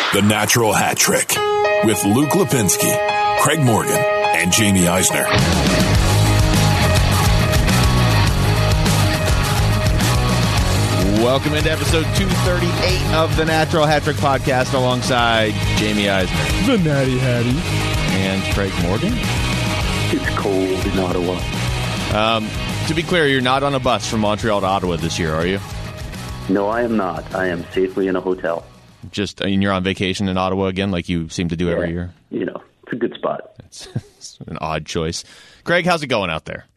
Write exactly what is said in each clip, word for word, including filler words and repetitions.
The Natural Hat Trick with Luke Lipinski, Craig Morgan, and Jamie Eisner. Welcome into episode two thirty-eight of the Natural Hat Trick podcast alongside Jamie Eisner. The Natty Hattie. And Craig Morgan. It's cold in Ottawa. Um, to be clear, you're not on a bus from Montreal to Ottawa this year, are you? No, I am not. I am safely in a hotel. Just, I mean, you're on vacation in Ottawa again, like you seem to do yeah, every year? You know, it's a good spot. It's, it's an odd choice. Craig, how's it going out there?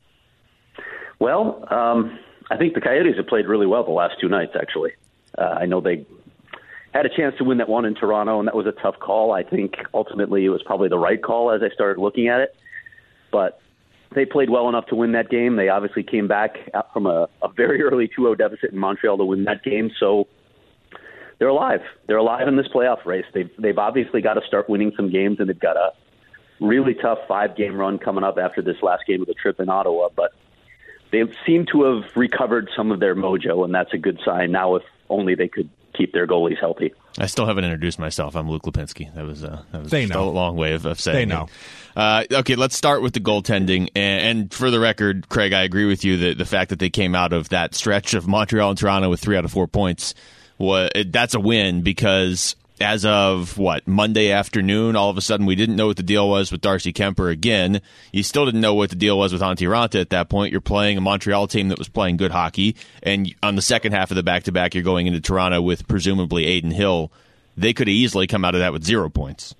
Well, um, I think the Coyotes have played really well the last two nights, actually. Uh, I know they had a chance to win that one in Toronto, and that was a tough call. I think ultimately it was probably the right call as I started looking at it. But they played well enough to win that game. They obviously came back out from a, a very early two oh deficit in Montreal to win that game. So they're alive. They're alive in this playoff race. They've, they've obviously got to start winning some games, and they've got a really tough five-game run coming up after this last game of the trip in Ottawa. But they seem to have recovered some of their mojo, and that's a good sign. Now, if only they could keep their goalies healthy. I still haven't introduced myself. I'm Luke Lipinski. That was, uh, that was they just know. a long way of, of saying They know. it. Uh, okay, let's start with the goaltending. And, and for the record, Craig, I agree with you that the fact that they came out of that stretch of Montreal and Toronto with three out of four points, was, that's a win because as of, what, Monday afternoon, all of a sudden we didn't know what the deal was with Darcy Kemper again. You still didn't know what the deal was with Antti Raanta at that point. You're playing a Montreal team that was playing good hockey, and on the second half of the back-to-back, you're going into Toronto with presumably Adin Hill. They could have easily come out of that with zero points.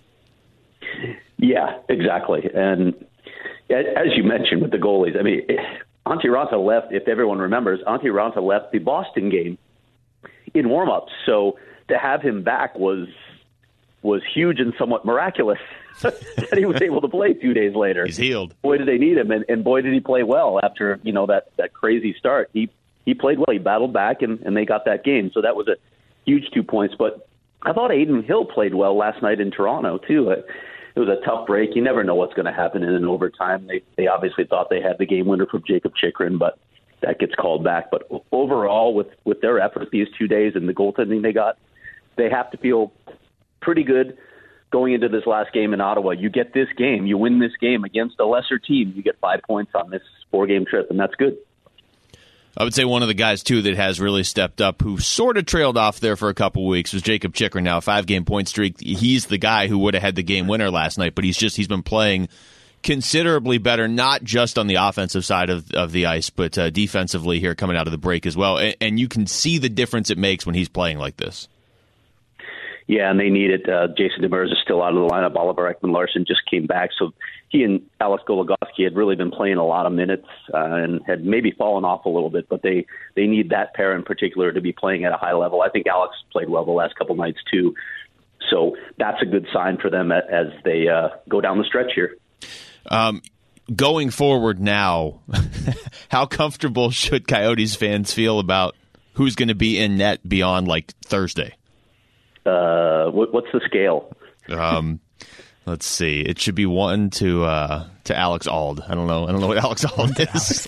Yeah, exactly. And as you mentioned with the goalies, I mean, Antti Raanta left, if everyone remembers, Antti Raanta left the Boston game in warm-ups. So to have him back was was huge and somewhat miraculous that he was able to play two days later. He's healed. Boy, did they need him, and, and boy, did he play well after, you know, that, that crazy start. He he played well. He battled back, and, and they got that game. So that was a huge two points. But I thought Adin Hill played well last night in Toronto, too. It, it was a tough break. You never know what's going to happen in an overtime. They they obviously thought they had the game winner from Jacob Chychrun, but that gets called back. But overall, with, with their effort these two days and the goaltending they got, they have to feel pretty good going into this last game in Ottawa. You get this game, you win this game against a lesser team, you get five points on this four-game trip, and that's good. I would say one of the guys, too, that has really stepped up, who sort of trailed off there for a couple weeks, was Jacob Chychrun. Now, a five-game point streak. He's the guy who would have had the game winner last night, but he's just he's been playing considerably better, not just on the offensive side of, of the ice, but uh, defensively here coming out of the break as well. And, and you can see the difference it makes when he's playing like this. Yeah, and they need it. Uh, Jason Demers is still out of the lineup. Oliver Ekman-Larsson just came back. So he and Alex Goligoski had really been playing a lot of minutes uh, and had maybe fallen off a little bit, but they, they need that pair in particular to be playing at a high level. I think Alex played well the last couple nights too. So that's a good sign for them as they uh, go down the stretch here. Um, going forward now, how comfortable should Coyotes fans feel about who's going to be in net beyond like Thursday? Uh, what, what's the scale? Um, let's see. It should be one to uh, to Alex Auld. I don't know. I don't know what Alex Auld is.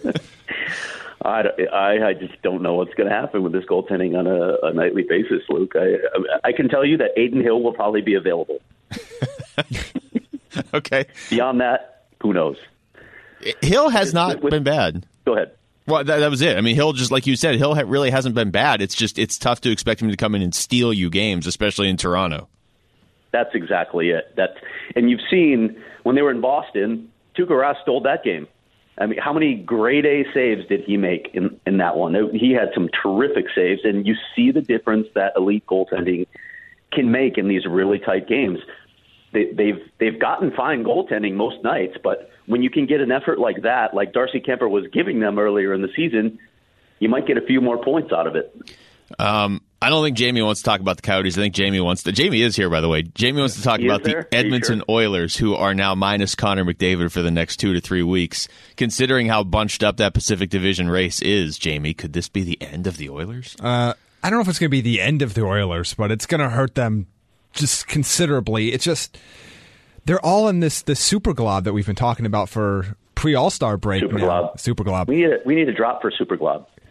I, I, I just don't know what's going to happen with this goaltending on a, a nightly basis, Luke. I, I can tell you that Adin Hill will probably be available. Okay. Beyond that, who knows? Hill has not with, been bad. Go ahead. Well, that, that was it. I mean, Hill, just like you said, Hill ha- really hasn't been bad. It's just it's tough to expect him to come in and steal you games, especially in Toronto. That's exactly it. That, and you've seen when they were in Boston, Tuukka Rask stole that game. I mean, how many grade A saves did he make in, in that one? He had some terrific saves, and you see the difference that elite goaltending can make in these really tight games. They, they've they've gotten fine goaltending most nights, but when you can get an effort like that, like Darcy Kemper was giving them earlier in the season, you might get a few more points out of it. Um, I don't think Jamie wants to talk about the Coyotes. I think Jamie wants to. Jamie is here, by the way. Jamie wants to talk he about the Edmonton sure? Oilers, who are now minus Connor McDavid for the next two to three weeks. Considering how bunched up that Pacific Division race is, Jamie, could this be the end of the Oilers? Uh, I don't know if it's going to be the end of the Oilers, but it's going to hurt them just considerably. It's just they're all in this this super glob that we've been talking about for pre All Star break. Super now. glob. Super glob. We need a, we need a drop for Super glob.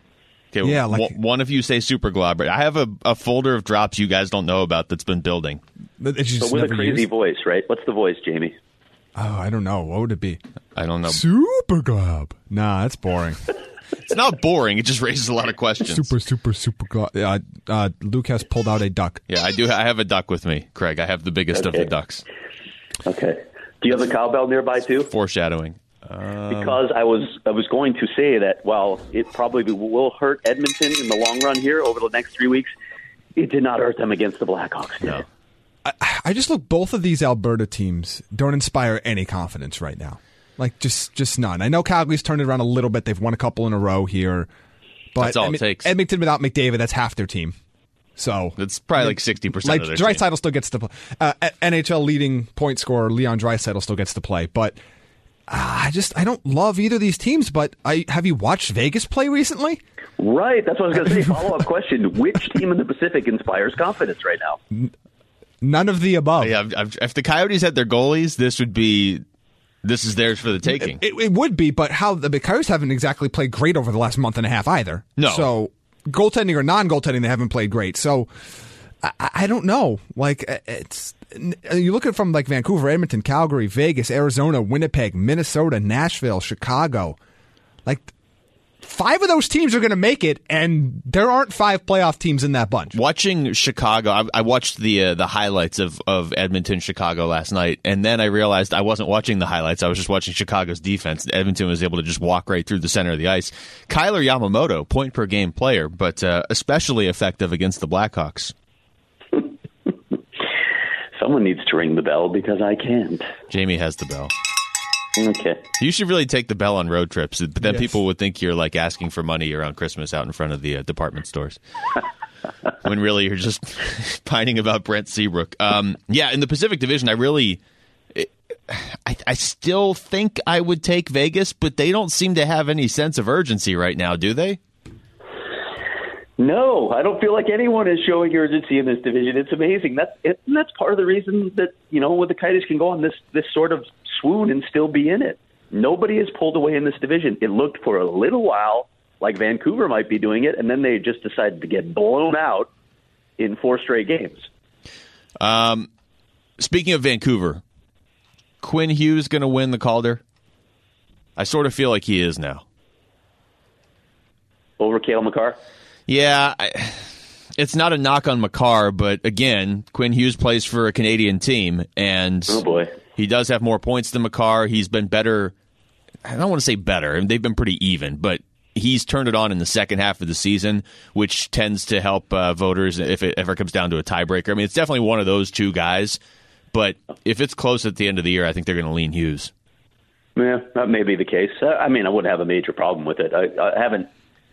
Okay, Yeah, like- one, one of you say Super Glob, but I have a, a folder of drops you guys don't know about that's been building. That you just But with a never crazy used? voice, right? What's the voice, Jamie? Oh, I don't know. What would it be? I don't know. Super Glob. Nah, that's boring. It's not boring. It just raises a lot of questions. super, super, super Glob. Uh, uh, Luke has pulled out a duck. Yeah, I do. I have a duck with me, Craig. I have the biggest of Okay. the ducks. Okay. Do you have the cowbell nearby too? Foreshadowing. Because I was I was going to say that while it probably will hurt Edmonton in the long run here over the next three weeks, it did not hurt them against the Blackhawks. Did No. it? I, I just look, both of these Alberta teams don't inspire any confidence right now. Like, just just none. I know Calgary's turned it around a little bit. They've won a couple in a row here. But That's all it Edmon- takes. Edmonton without McDavid, that's half their team. So That's probably like sixty percent like of their team. Draisaitl still gets to play. Uh, N H L leading point scorer Leon Draisaitl still gets to play. But uh, I just I don't love either of these teams. But I have you watched Vegas play recently? Right. That's what I was going to say. Follow up question: which team in the Pacific inspires confidence right now? None of the above. Yeah, I've- I've- if the Coyotes had their goalies, this would be this is theirs for the taking. It, it would be, but how the Coyotes haven't exactly played great over the last month and a half either. No. So goaltending or non-goaltending, they haven't played great. So I, I don't know. Like it's you look at it from like Vancouver, Edmonton, Calgary, Vegas, Arizona, Winnipeg, Minnesota, Nashville, Chicago. Like five of those teams are going to make it, and there aren't five playoff teams in that bunch. Watching Chicago, I, I watched the uh, the highlights of, of Edmonton Chicago last night, and then I realized I wasn't watching the highlights. I was just watching Chicago's defense. Edmonton was able to just walk right through the center of the ice. Kyler Yamamoto, point per game player, but uh, especially effective against the Blackhawks. Someone needs to ring the bell because I can't. Jamie has the bell. Okay. You should really take the bell on road trips, but then Yes. people would think you're like asking for money around Christmas out in front of the uh, department stores. When really you're just pining about Brent Seabrook. Um, yeah, in the Pacific Division, I really, I, I still think I would take Vegas, but they don't seem to have any sense of urgency right now, do they? No, I don't feel like anyone is showing urgency in this division. It's amazing. That's it, and that's part of the reason that you know, with the Coyotes can go on this this sort of swoon and still be in it. Nobody has pulled away in this division. It looked for a little while like Vancouver might be doing it, and then they just decided to get blown out in four straight games. Um, speaking of Vancouver, Quinn Hughes going to win the Calder? I sort of feel like he is now. Over Cale Makar? Yeah, I, it's not a knock on Makar, but again, Quinn Hughes plays for a Canadian team, and Oh, boy. he does have more points than Makar. He's been better. I don't want to say better. I mean, they've been pretty even, but he's turned it on in the second half of the season, which tends to help uh, voters if it ever comes down to a tiebreaker. I mean, it's definitely one of those two guys, but if it's close at the end of the year, I think they're going to lean Hughes. Yeah, that may be the case. Uh, I mean, I wouldn't have a major problem with it. I, I haven't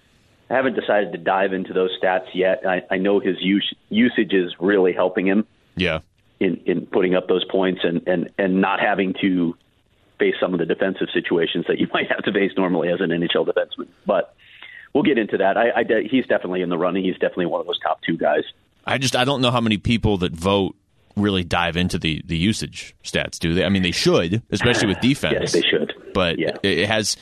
I haven't decided to dive into those stats yet. I, I know his use, usage is really helping him Yeah. in, in putting up those points and, and, and not having to face some of the defensive situations that you might have to face normally as an N H L defenseman. But we'll get into that. I, I, he's definitely in the running. He's definitely one of those top two guys. I just I don't know how many people that vote really dive into the, the usage stats, do they? I mean, they should, especially with defense. Yes, they should. But Yeah. it, it has.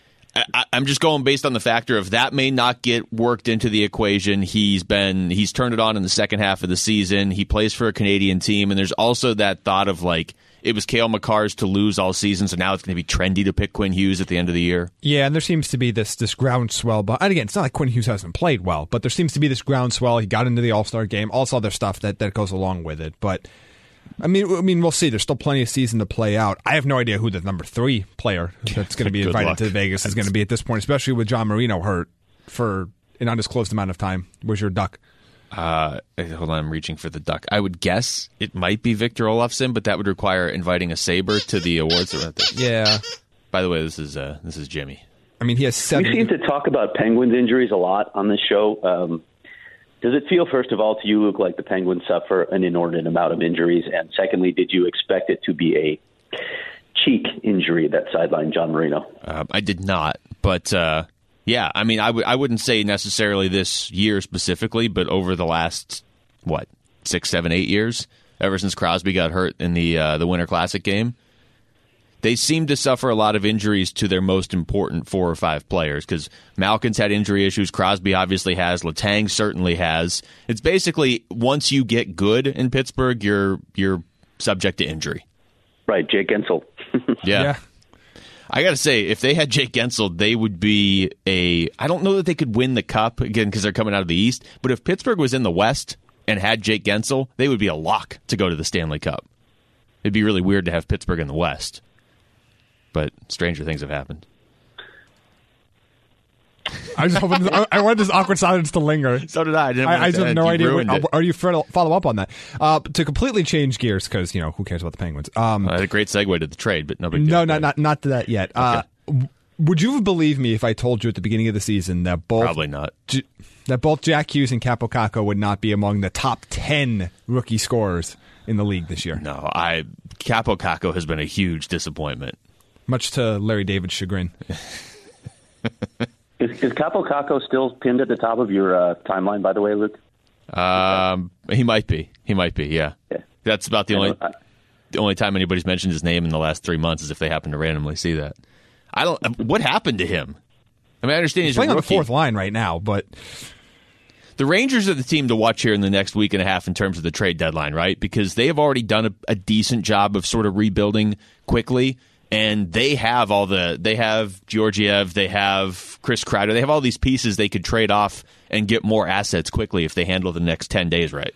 I, I'm just going based on the factor of that may not get worked into the equation. He's been he's turned it on in the second half of the season. He plays for a Canadian team, and there's also that thought of like it was Cale Makar's to lose all season, so now it's going to be trendy to pick Quinn Hughes at the end of the year. Yeah, and there seems to be this this groundswell. But and again, it's not like Quinn Hughes hasn't played well, but there seems to be this groundswell. He got into the All-Star game, all this other stuff that, that goes along with it. But I mean, I mean, we'll see. There's still plenty of season to play out. I have no idea who the number three player that's going to be Good invited luck. to Vegas is going to be at this point, especially with John Marino hurt for an undisclosed amount of time. Where's your duck? Uh, hold on, I'm reaching for the duck. I would guess it might be Victor Olofsson, but that would require inviting a Sabre to the awards. Yeah, By the way, this is uh, this is Jimmy. I mean, he has We seven. seem to talk about Penguins injuries a lot on this show. Um, does it feel, first of all, to you, Luke, like the Penguins suffer an inordinate amount of injuries? And secondly, did you expect it to be a cheek injury that sidelined John Marino? Uh, I did not, but uh, yeah, I mean, I w- I wouldn't say necessarily this year specifically, but over the last what six, seven, eight years, ever since Crosby got hurt in the uh, the Winter Classic game, they seem to suffer a lot of injuries to their most important four or five players because Malkin's had injury issues. Crosby obviously has. Letang certainly has. It's basically once you get good in Pittsburgh, you're you're subject to injury. Right, Jake Gensel. yeah. Yeah. I got to say, if they had Jake Gensel, they would be a... I don't know that they could win the Cup, again, because they're coming out of the East, but if Pittsburgh was in the West and had Jake Gensel, they would be a lock to go to the Stanley Cup. It'd be really weird to have Pittsburgh in the West. But stranger things have happened. I was hoping this, I wanted this awkward silence to linger. So did I. I, didn't I, I just have no you idea. ruined What, it. are you trying to follow up on that? Uh, to completely change gears, because you know who cares about the Penguins? Um, I had a great segue to the trade, but nobody. no, not not not to that yet. Uh, w- would you believe me if I told you at the beginning of the season that both Probably not. J- that both Jack Hughes and Capo Caco would not be among the top ten rookie scorers in the league this year? No, I Capo Caco has been a huge disappointment. Much to Larry David's chagrin. Is, is Capo Caco still pinned at the top of your uh, timeline, by the way, Luke? Um, he might be. He might be. Yeah. Yeah. That's about the I only know, I, the only time anybody's mentioned his name in the last three months is if they happen to randomly see that. I don't. What happened to him? I mean, I understand he's, He's playing a on the rookie. fourth line right now, but The Rangers are the team to watch here in the next week and a half in terms of the trade deadline, right? Because they have already done a, a decent job of sort of rebuilding quickly, and they have all the they have Georgiev, they have Chris Kreider, they have all these pieces they could trade off and get more assets quickly if they handle the next ten days right.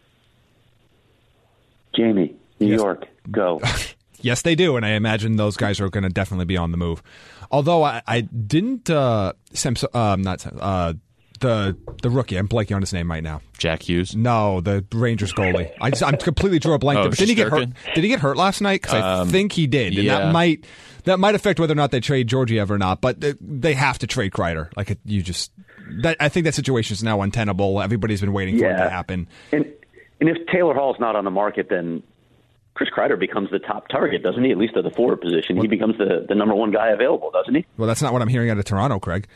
Jamie, New Yes. York, go. yes, they do, and I imagine those guys are going to definitely be on the move. Although I, I didn't, uh, Samso, um, not Sam- uh, the the rookie. I'm blanking on his name right now. Jack Hughes. No, the Rangers goalie. I just, I'm completely drew a blank. Oh, there. But didn't he get hurt? Shesterkin? Did he get hurt last night? Because I Um, think he did, and yeah. that might that might affect whether or not they trade Georgiev or not. But they, they have to trade Kreider. Like it, you just, that, I think that situation is now untenable. Everybody's been waiting for it Yeah. to happen. And and if Taylor Hall's not on the market, then Chris Kreider becomes the top target, doesn't he? At least at the forward position, he becomes the, the number one guy available, doesn't he? Well, that's not what I'm hearing out of Toronto, Craig.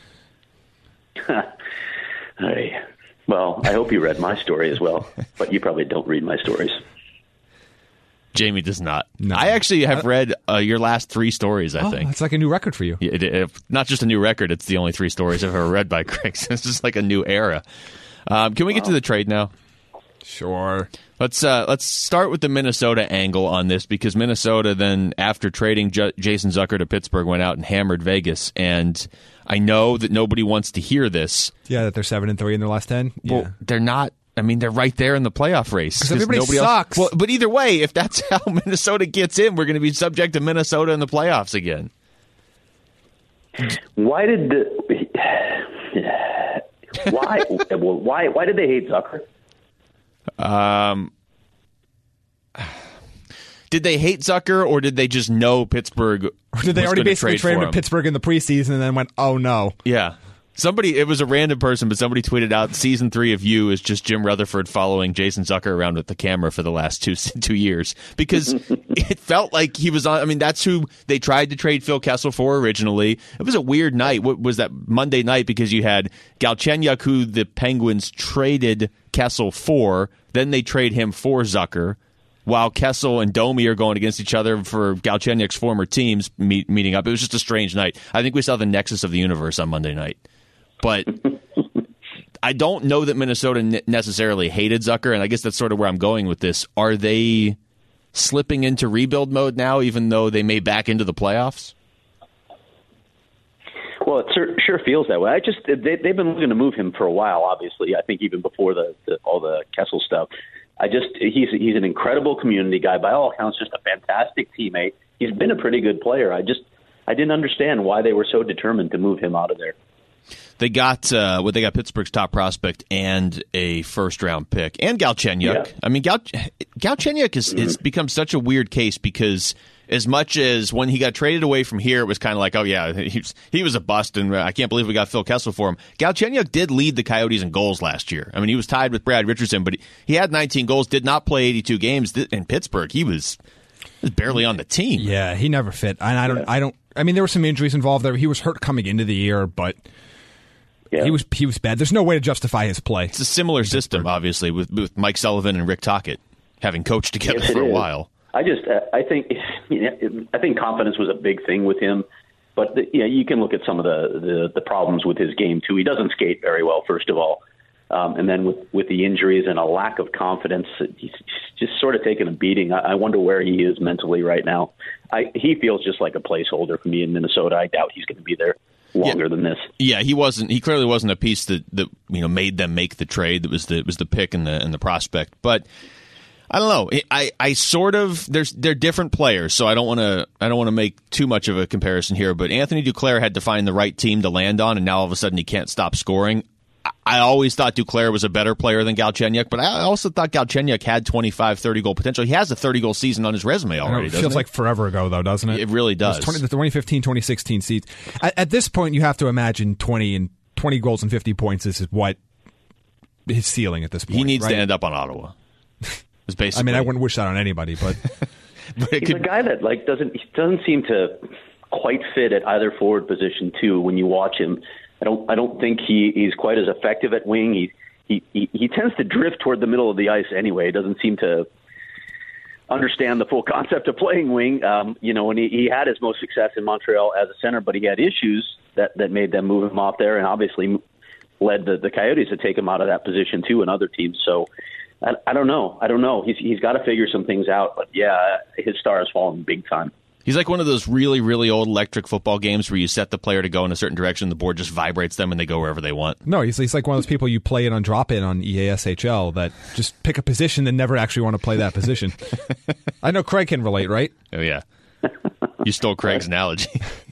Hey, well, I hope you read my story as well, but you probably don't read my stories. Jamie does not. No. I actually have read uh, your last three stories, I Oh, think. that's like a new record for you. Yeah, it, it, not just a new record, it's the only three stories I've ever read by Craig. So it's just like a new era. Um, can we get to the trade now? Sure. Let's uh, let's start with the Minnesota angle on this, because Minnesota then, after trading J- Jason Zucker to Pittsburgh, went out and hammered Vegas. And I know that nobody wants to hear this. Yeah, that they're seven and three in their last ten. Yeah. Well, they're not. I mean, they're right there in the playoff race. 'Cause everybody nobody sucks. Else, well, but either way, if that's how Minnesota gets in, we're going to be subject to Minnesota in the playoffs again. Why did the why well, why why did they hate Zucker? Um, did they hate Zucker, or did they just know Pittsburgh? Or did they was already gonna basically trade trade him for to Pittsburgh in the preseason and then went, oh no? Yeah. Somebody, it was a random person, but somebody tweeted out season three of You is just Jim Rutherford following Jason Zucker around with the camera for the last two two years, because it felt like he was on. I mean, that's who they tried to trade Phil Kessel for originally. It was a weird night. What was that Monday night? Because you had Galchenyuk, who the Penguins traded Kessel for, then they trade him for Zucker, while Kessel and Domi are going against each other for Galchenyuk's former teams meet, meeting up. It was just a strange night. I think we saw the nexus of the universe on Monday night. But I don't know that Minnesota ne- necessarily hated Zucker, and I guess that's sort of where I'm going with this. Are they slipping into rebuild mode now, even though they may back into the playoffs? Well, it sure, sure feels that way. I just they, they've been looking to move him for a while. Obviously, I think even before the, the all the Kessel stuff. I just he's he's an incredible community guy. By all accounts, just a fantastic teammate. He's been a pretty good player. I just I didn't understand why they were so determined to move him out of there. They got uh, well, they got Pittsburgh's top prospect and a first round pick, and Galchenyuk. Yeah. I mean, Gal- Galchenyuk is it's become such a weird case, because as much as when he got traded away from here, it was kind of like, oh yeah, he was, he was a bust, and I can't believe we got Phil Kessel for him. Galchenyuk did lead the Coyotes in goals last year. I mean, he was tied with Brad Richardson, but he, he had nineteen goals, did not play eighty-two games in Pittsburgh. He was, he was barely on the team. Yeah, he never fit. And I don't, I don't, I mean, there were some injuries involved there. He was hurt coming into the year, but Yeah. he was he was bad. There's no way to justify his play. It's a similar system, obviously, with, with Mike Sullivan and Rick Tocchet having coached together Yes, it for a is. while. I just, uh, I think, you know, I think confidence was a big thing with him. But the, you know, you can look at some of the, the the problems with his game too. He doesn't skate very well, first of all, um, and then with with the injuries and a lack of confidence, he's just sort of taking a beating. I, I wonder where he is mentally right now. I, he feels just like a placeholder for me in Minnesota. I doubt he's going to be there longer yeah. than this. Yeah, he wasn't. He clearly wasn't a piece that, that you know made them make the trade. That was the was the pick and the and the prospect. But I don't know. I, I sort of there's they're different players, so I don't want to I don't want to make too much of a comparison here. But Anthony Duclair had to find the right team to land on, and now all of a sudden he can't stop scoring. I, I always thought Duclair was a better player than Galchenyuk, but I also thought Galchenyuk had twenty-five, thirty goal potential. He has a thirty goal season on his resume already. It feels it? like forever ago, though, doesn't it? It really does. It twenty, the twenty fifteen twenty sixteen season. At, at this point, you have to imagine twenty and twenty goals and fifty points is what his ceiling at this point. He needs right? to end up on Ottawa. Basically. I mean, I wouldn't wish that on anybody, but, but it he's could, a guy that like doesn't he doesn't seem to quite fit at either forward position too. When you watch him, I don't I don't think he, he's quite as effective at wing. He, he he he tends to drift toward the middle of the ice anyway. He doesn't seem to understand the full concept of playing wing. Um, you know, when he, he had his most success in Montreal as a center, but he had issues that, that made them move him off there, and obviously led the, the Coyotes to take him out of that position too, and other teams. So. I, I don't know. I don't know. He's he's got to figure some things out. But yeah, his star has fallen big time. He's like one of those really, really old electric football games where you set the player to go in a certain direction, the board just vibrates them, and they go wherever they want. No, he's, he's like one of those people you play it on drop-in on E A S H L that just pick a position and never actually want to play that position. I know Craig can relate, right? Oh, yeah. You stole Craig's analogy.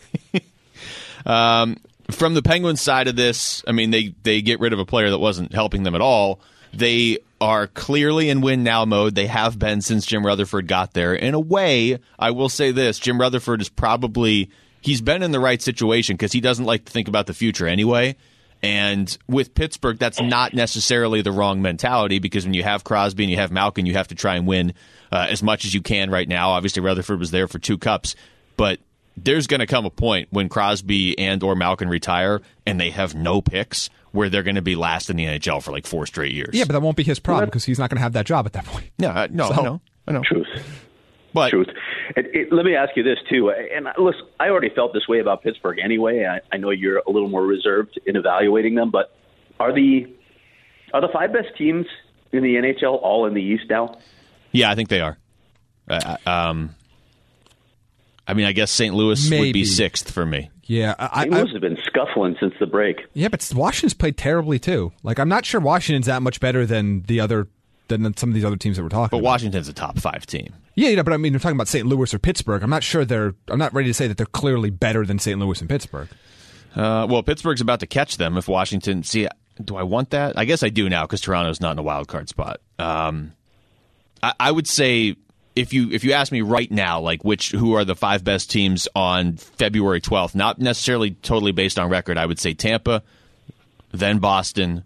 um, from the Penguins side of this, I mean, they, they get rid of a player that wasn't helping them at all. They are clearly in win-now mode. They have been since Jim Rutherford got there. In a way, I will say this, Jim Rutherford is probably, he's been in the right situation because he doesn't like to think about the future anyway. And with Pittsburgh, that's not necessarily the wrong mentality because when you have Crosby and you have Malkin, you have to try and win uh, as much as you can right now. Obviously, Rutherford was there for two cups, but there's going to come a point when Crosby and or Malkin retire and they have no picks where they're going to be last in the N H L for like four straight years. Yeah, but that won't be his problem because he's not going to have that job at that point. No, uh, no, So- I know, I know. Truth. But Truth. It, it, let me ask you this, too. And listen, I already felt this way about Pittsburgh anyway. I, I know you're a little more reserved in evaluating them, but are the are the five best teams in the N H L all in the East now? yeah, I think they are. Uh, um, I mean, I guess Saint Louis would Maybe. be sixth for me. Yeah, I, Saint I, Louis has been scuffling since the break. yeah, but Washington's played terribly too. Like, I'm not sure Washington's that much better than the other than some of these other teams that we're talking But about. Washington's a top five team. Yeah, yeah, but I mean, we're talking about Saint Louis or Pittsburgh. I'm not sure they're. I'm not ready to say that they're clearly better than Saint Louis and Pittsburgh. Uh, well, Pittsburgh's about to catch them if Washington. See, do I want that? I guess I do now because Toronto's not in a wild card spot. Um, I, I would say if you if you ask me right now, like which who are the five best teams on February twelfth, not necessarily totally based on record, I would say Tampa, then Boston,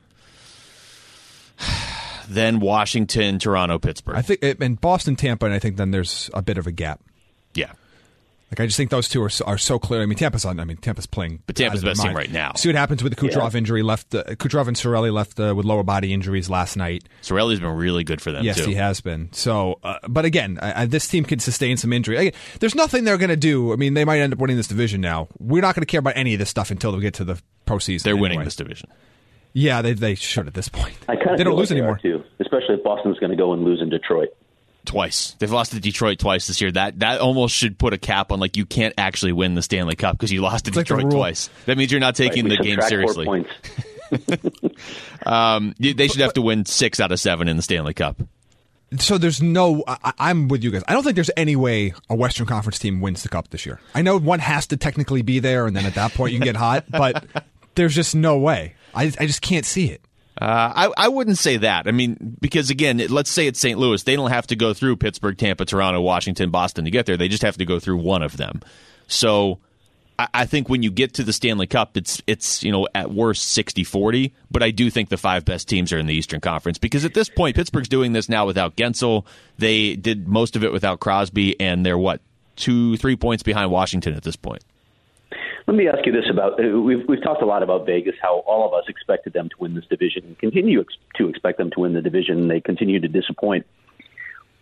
then Washington, Toronto, Pittsburgh. I think and Boston, Tampa, and I think then there's a bit of a gap. yeah. Like I just think those two are so, are so clear. I mean, Tampa's on. I mean, Tampa's playing. But Tampa's out of the their best team mind. right now. See what happens with the Kucherov Yeah. injury. Left uh, Kucherov and Sorelli left uh, with lower body injuries last night. Sorelli's been really good for them, Yes, too. he has been. So, uh, but again, I, I, this team can sustain some injury. Again, there's nothing they're going to do. I mean, they might end up winning this division now. We're not going to care about any of this stuff until we get to the postseason. They're winning anyway. this division. Yeah, they they should at this point. I kind of they don't feel lose like they anymore. are, too, especially if Boston's going to go and lose in Detroit. Twice. They've lost to Detroit twice this year. That that almost should put a cap on, like, you can't actually win the Stanley Cup because you lost to It's like the Detroit rule. twice. That means you're not taking Right, the we game subtract four seriously. points. Um, they should have to win six out of seven in the Stanley Cup. So there's no. I, I'm with you guys. I don't think there's any way a Western Conference team wins the Cup this year. I know one has to technically be there, and then at that point you can get hot. But there's just no way. I I just can't see it. Uh, I, I wouldn't say that. I mean, because, again, it, let's say it's Saint Louis. They don't have to go through Pittsburgh, Tampa, Toronto, Washington, Boston to get there. They just have to go through one of them. So I, I think when you get to the Stanley Cup, it's, it's you know, at worst sixty forty. But I do think the five best teams are in the Eastern Conference because at this point, Pittsburgh's doing this now without Gensel. They did most of it without Crosby, and they're, what, two, three points behind Washington at this point. Let me ask you this about uh, we've we've talked a lot about Vegas, how all of us expected them to win this division and continue ex- to expect them to win the division, and they continue to disappoint.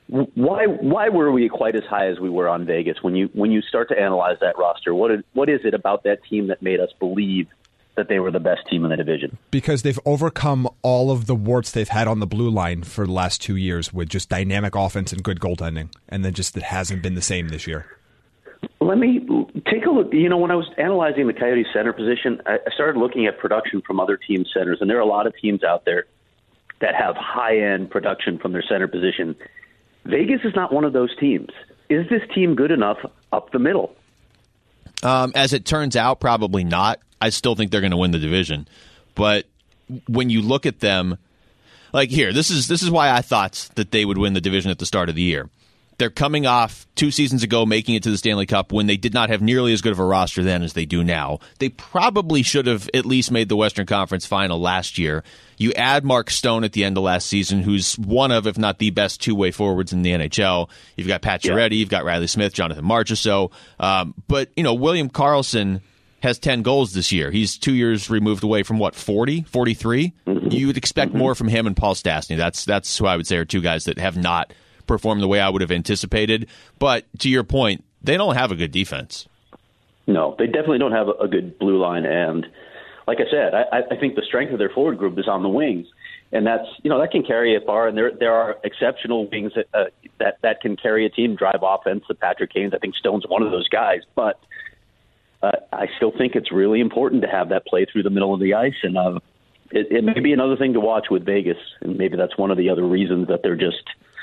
why why were we quite as high as we were on Vegas? When you when you start to analyze that roster, what is, what is it about that team that made us believe that they were the best team in the division? Because they've overcome all of the warts they've had on the blue line for the last two years with just dynamic offense and good goaltending, and then just it hasn't been the same this year. Let me take a look. You know, when I was analyzing the Coyotes center position, I started looking at production from other team centers, and there are a lot of teams out there that have high-end production from their center position. Vegas is not one of those teams. Is this team good enough up the middle? Um, as it turns out, probably not. I still think they're going to win the division. But when you look at them, like here, this is this is why I thought that they would win the division at the start of the year. They're coming off two seasons ago making it to the Stanley Cup when they did not have nearly as good of a roster then as they do now. They probably should have at least made the Western Conference Final last year. You add Mark Stone at the end of last season, who's one of, if not the best two-way forwards in the N H L. You've got Pat Chiaretti, yeah. You've got Riley Smith, Jonathan Marchessault. Um, but, you know, William Karlsson has ten goals this year. He's two years removed away from, what, forty, forty-three? Mm-hmm. You would expect mm-hmm. more from him and Paul Stastny. That's, that's who I would say are two guys that have not perform the way I would have anticipated. But to your point, they don't have a good defense. No, they definitely don't have a good blue line. And like I said, I, I think the strength of their forward group is on the wings. And that's, you know, that can carry it far. And there there are exceptional wings that, uh, that, that can carry a team, drive offense. The Patrick Kane's, I think Stone's one of those guys. But uh, I still think it's really important to have that play through the middle of the ice. And uh, it, it may be another thing to watch with Vegas. And maybe that's one of the other reasons that they're just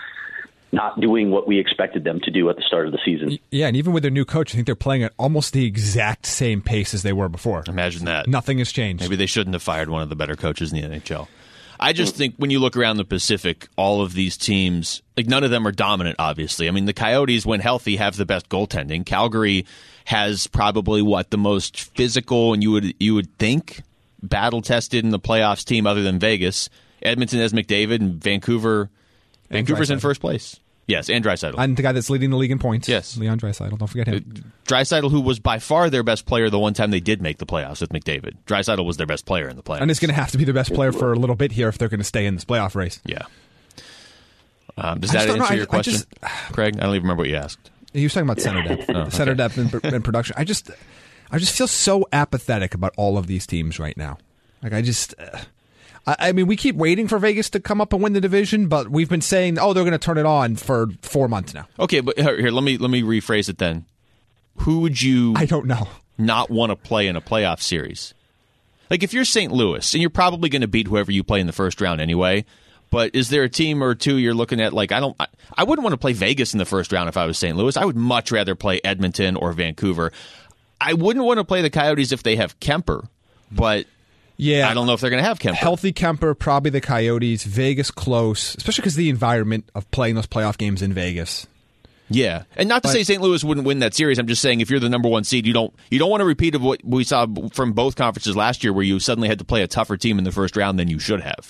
not doing what we expected them to do at the start of the season. Yeah, and even with their new coach, I think they're playing at almost the exact same pace as they were before. Imagine that. Nothing has changed. Maybe they shouldn't have fired one of the better coaches in the N H L. I just think when you look around the Pacific, all of these teams, like none of them are dominant, obviously. I mean, the Coyotes, when healthy, have the best goaltending. Calgary has probably, what, the most physical, and you would you would think, battle-tested in the playoffs team other than Vegas. Edmonton has McDavid, and Vancouver... Vancouver's in first place. Yes, and Draisaitl. And the guy that's leading the league in points. Yes. Leon Draisaitl. Don't forget him. Draisaitl, who was by far their best player the one time they did make the playoffs with McDavid. Draisaitl was their best player in the playoffs. And it's going to have to be their best player for a little bit here if they're going to stay in this playoff race. Yeah. Um, does that answer know, your I, question, I just, Craig? I don't even remember what you asked. He was talking about center depth. oh, okay. Center depth and, and production. I just, I just feel so apathetic about all of these teams right now. Like, I just... Uh, I mean, we keep waiting for Vegas to come up and win the division, but we've been saying, "Oh, they're going to turn it on" for four months now. Okay, but here, here, let me let me rephrase it then. Who would you? I don't know. Not want to play in a playoff series? Like, if you're Saint Louis, and you're probably going to beat whoever you play in the first round anyway. But is there a team or two you're looking at? Like, I don't. I, I wouldn't want to play Vegas in the first round if I was Saint Louis. I would much rather play Edmonton or Vancouver. I wouldn't want to play the Coyotes if they have Kemper, but. Yeah, I don't know if they're going to have Kemper. Healthy Kemper, probably the Coyotes. Vegas close, especially because the environment of playing those playoff games in Vegas. Yeah, and not to but, say Saint Louis wouldn't win that series. I'm just saying if you're the number one seed, you don't you don't want a repeat of what we saw from both conferences last year, where you suddenly had to play a tougher team in the first round than you should have.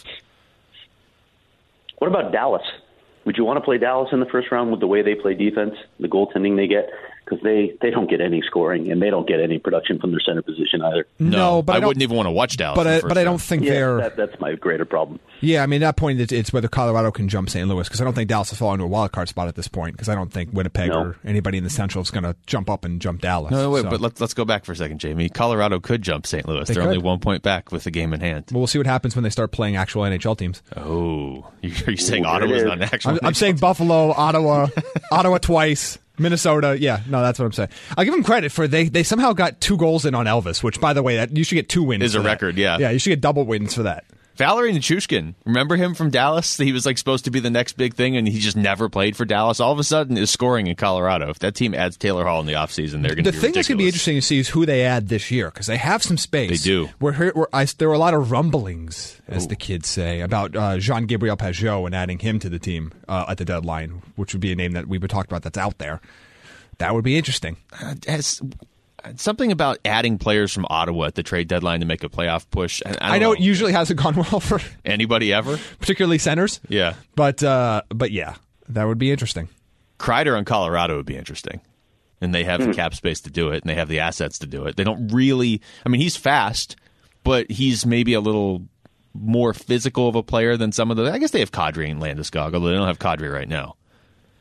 What about Dallas? Would you want to play Dallas in the first round with the way they play defense, the goaltending they get? Because they, they don't get any scoring, and they don't get any production from their center position either. No, no but I, I wouldn't even want to watch Dallas. But I, but I don't think yeah, they're... That, that's my greater problem. Yeah, I mean, at that point, it's, it's whether Colorado can jump Saint Louis, because I don't think Dallas will fall into a wild card spot at this point, because I don't think Winnipeg no. or anybody in the Central is going to jump up and jump Dallas. No, wait, so. but let's, let's go back for a second, Jamie. Colorado could jump Saint Louis. They They're could. only one point back with the game in hand. Well, we'll see what happens when they start playing actual N H L teams. Oh, are you saying Ooh, Ottawa's not an actual I'm, I'm saying Buffalo, Ottawa, Ottawa twice. Minnesota, yeah, no, that's what I'm saying. I'll give them credit for they they somehow got two goals in on Elvis, which, by the way, that you should get two wins. Is a that. record, yeah. Yeah, you should get double wins for that. Valerie Nichushkin, remember him from Dallas? He was like supposed to be the next big thing, and he just never played for Dallas. All of a sudden, is scoring in Colorado. If that team adds Taylor Hall in the offseason, they're going to be The thing ridiculous. that's going to be interesting to see is who they add this year, because they have some space. They do. We're, we're, I, there were a lot of rumblings, as Ooh. the kids say, about uh, Jean-Gabriel Pageau and adding him to the team uh, at the deadline, which would be a name that we've been talking about that's out there. That would be interesting. Uh, has something about adding players from Ottawa at the trade deadline to make a playoff push. I, I, I know, know it usually hasn't gone well for anybody ever, particularly centers. Yeah, but uh, but yeah, that would be interesting. Kreider on Colorado would be interesting, and they have the cap space to do it, and they have the assets to do it. They don't really. I mean, he's fast, but he's maybe a little more physical of a player than some of the. I guess they have Kadri and Landeskog, although they don't have Kadri right now.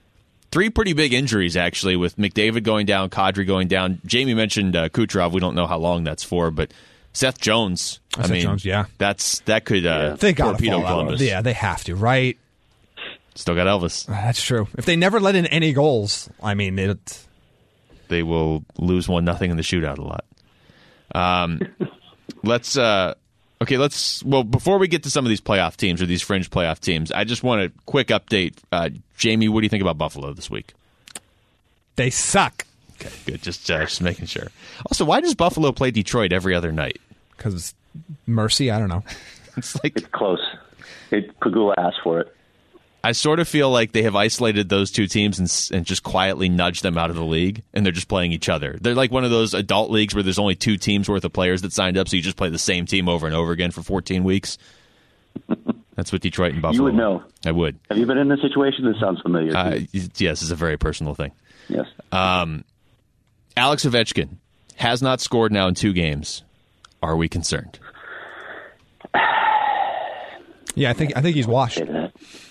three pretty big injuries, actually, with McDavid going down, Kadri going down. Jamie mentioned uh, Kucherov. We don't know how long that's for, but Seth Jones. Oh, I Seth mean, Jones, yeah. That's, that could uh, they gotta torpedo fall out. Columbus. Yeah, they have to, right? Still got Elvis. That's true. If they never let in any goals, I mean, it... They will lose one nothing in the shootout a lot. Um, let's uh, okay. Let's well before we get to some of these playoff teams or these fringe playoff teams, I just want a quick update. Uh, Jamie, what do you think about Buffalo this week? They suck. Okay, good. Just uh, just making sure. Also, why does Buffalo play Detroit every other night? Because mercy, I don't know. It's like It's close. It, Pagula asked for it. I sort of feel like they have isolated those two teams and, and just quietly nudged them out of the league, and they're just playing each other. They're like one of those adult leagues where there's only two teams worth of players that signed up, so you just play the same team over and over again for fourteen weeks. That's what Detroit and Buffalo. You would know. I would. Have you been in this situation? This sounds familiar. to Uh, me. yes, it's a very personal thing. Yes. Um, Alex Ovechkin has not scored now in two games. Are we concerned? Yeah, I think I think he's washed. Say that.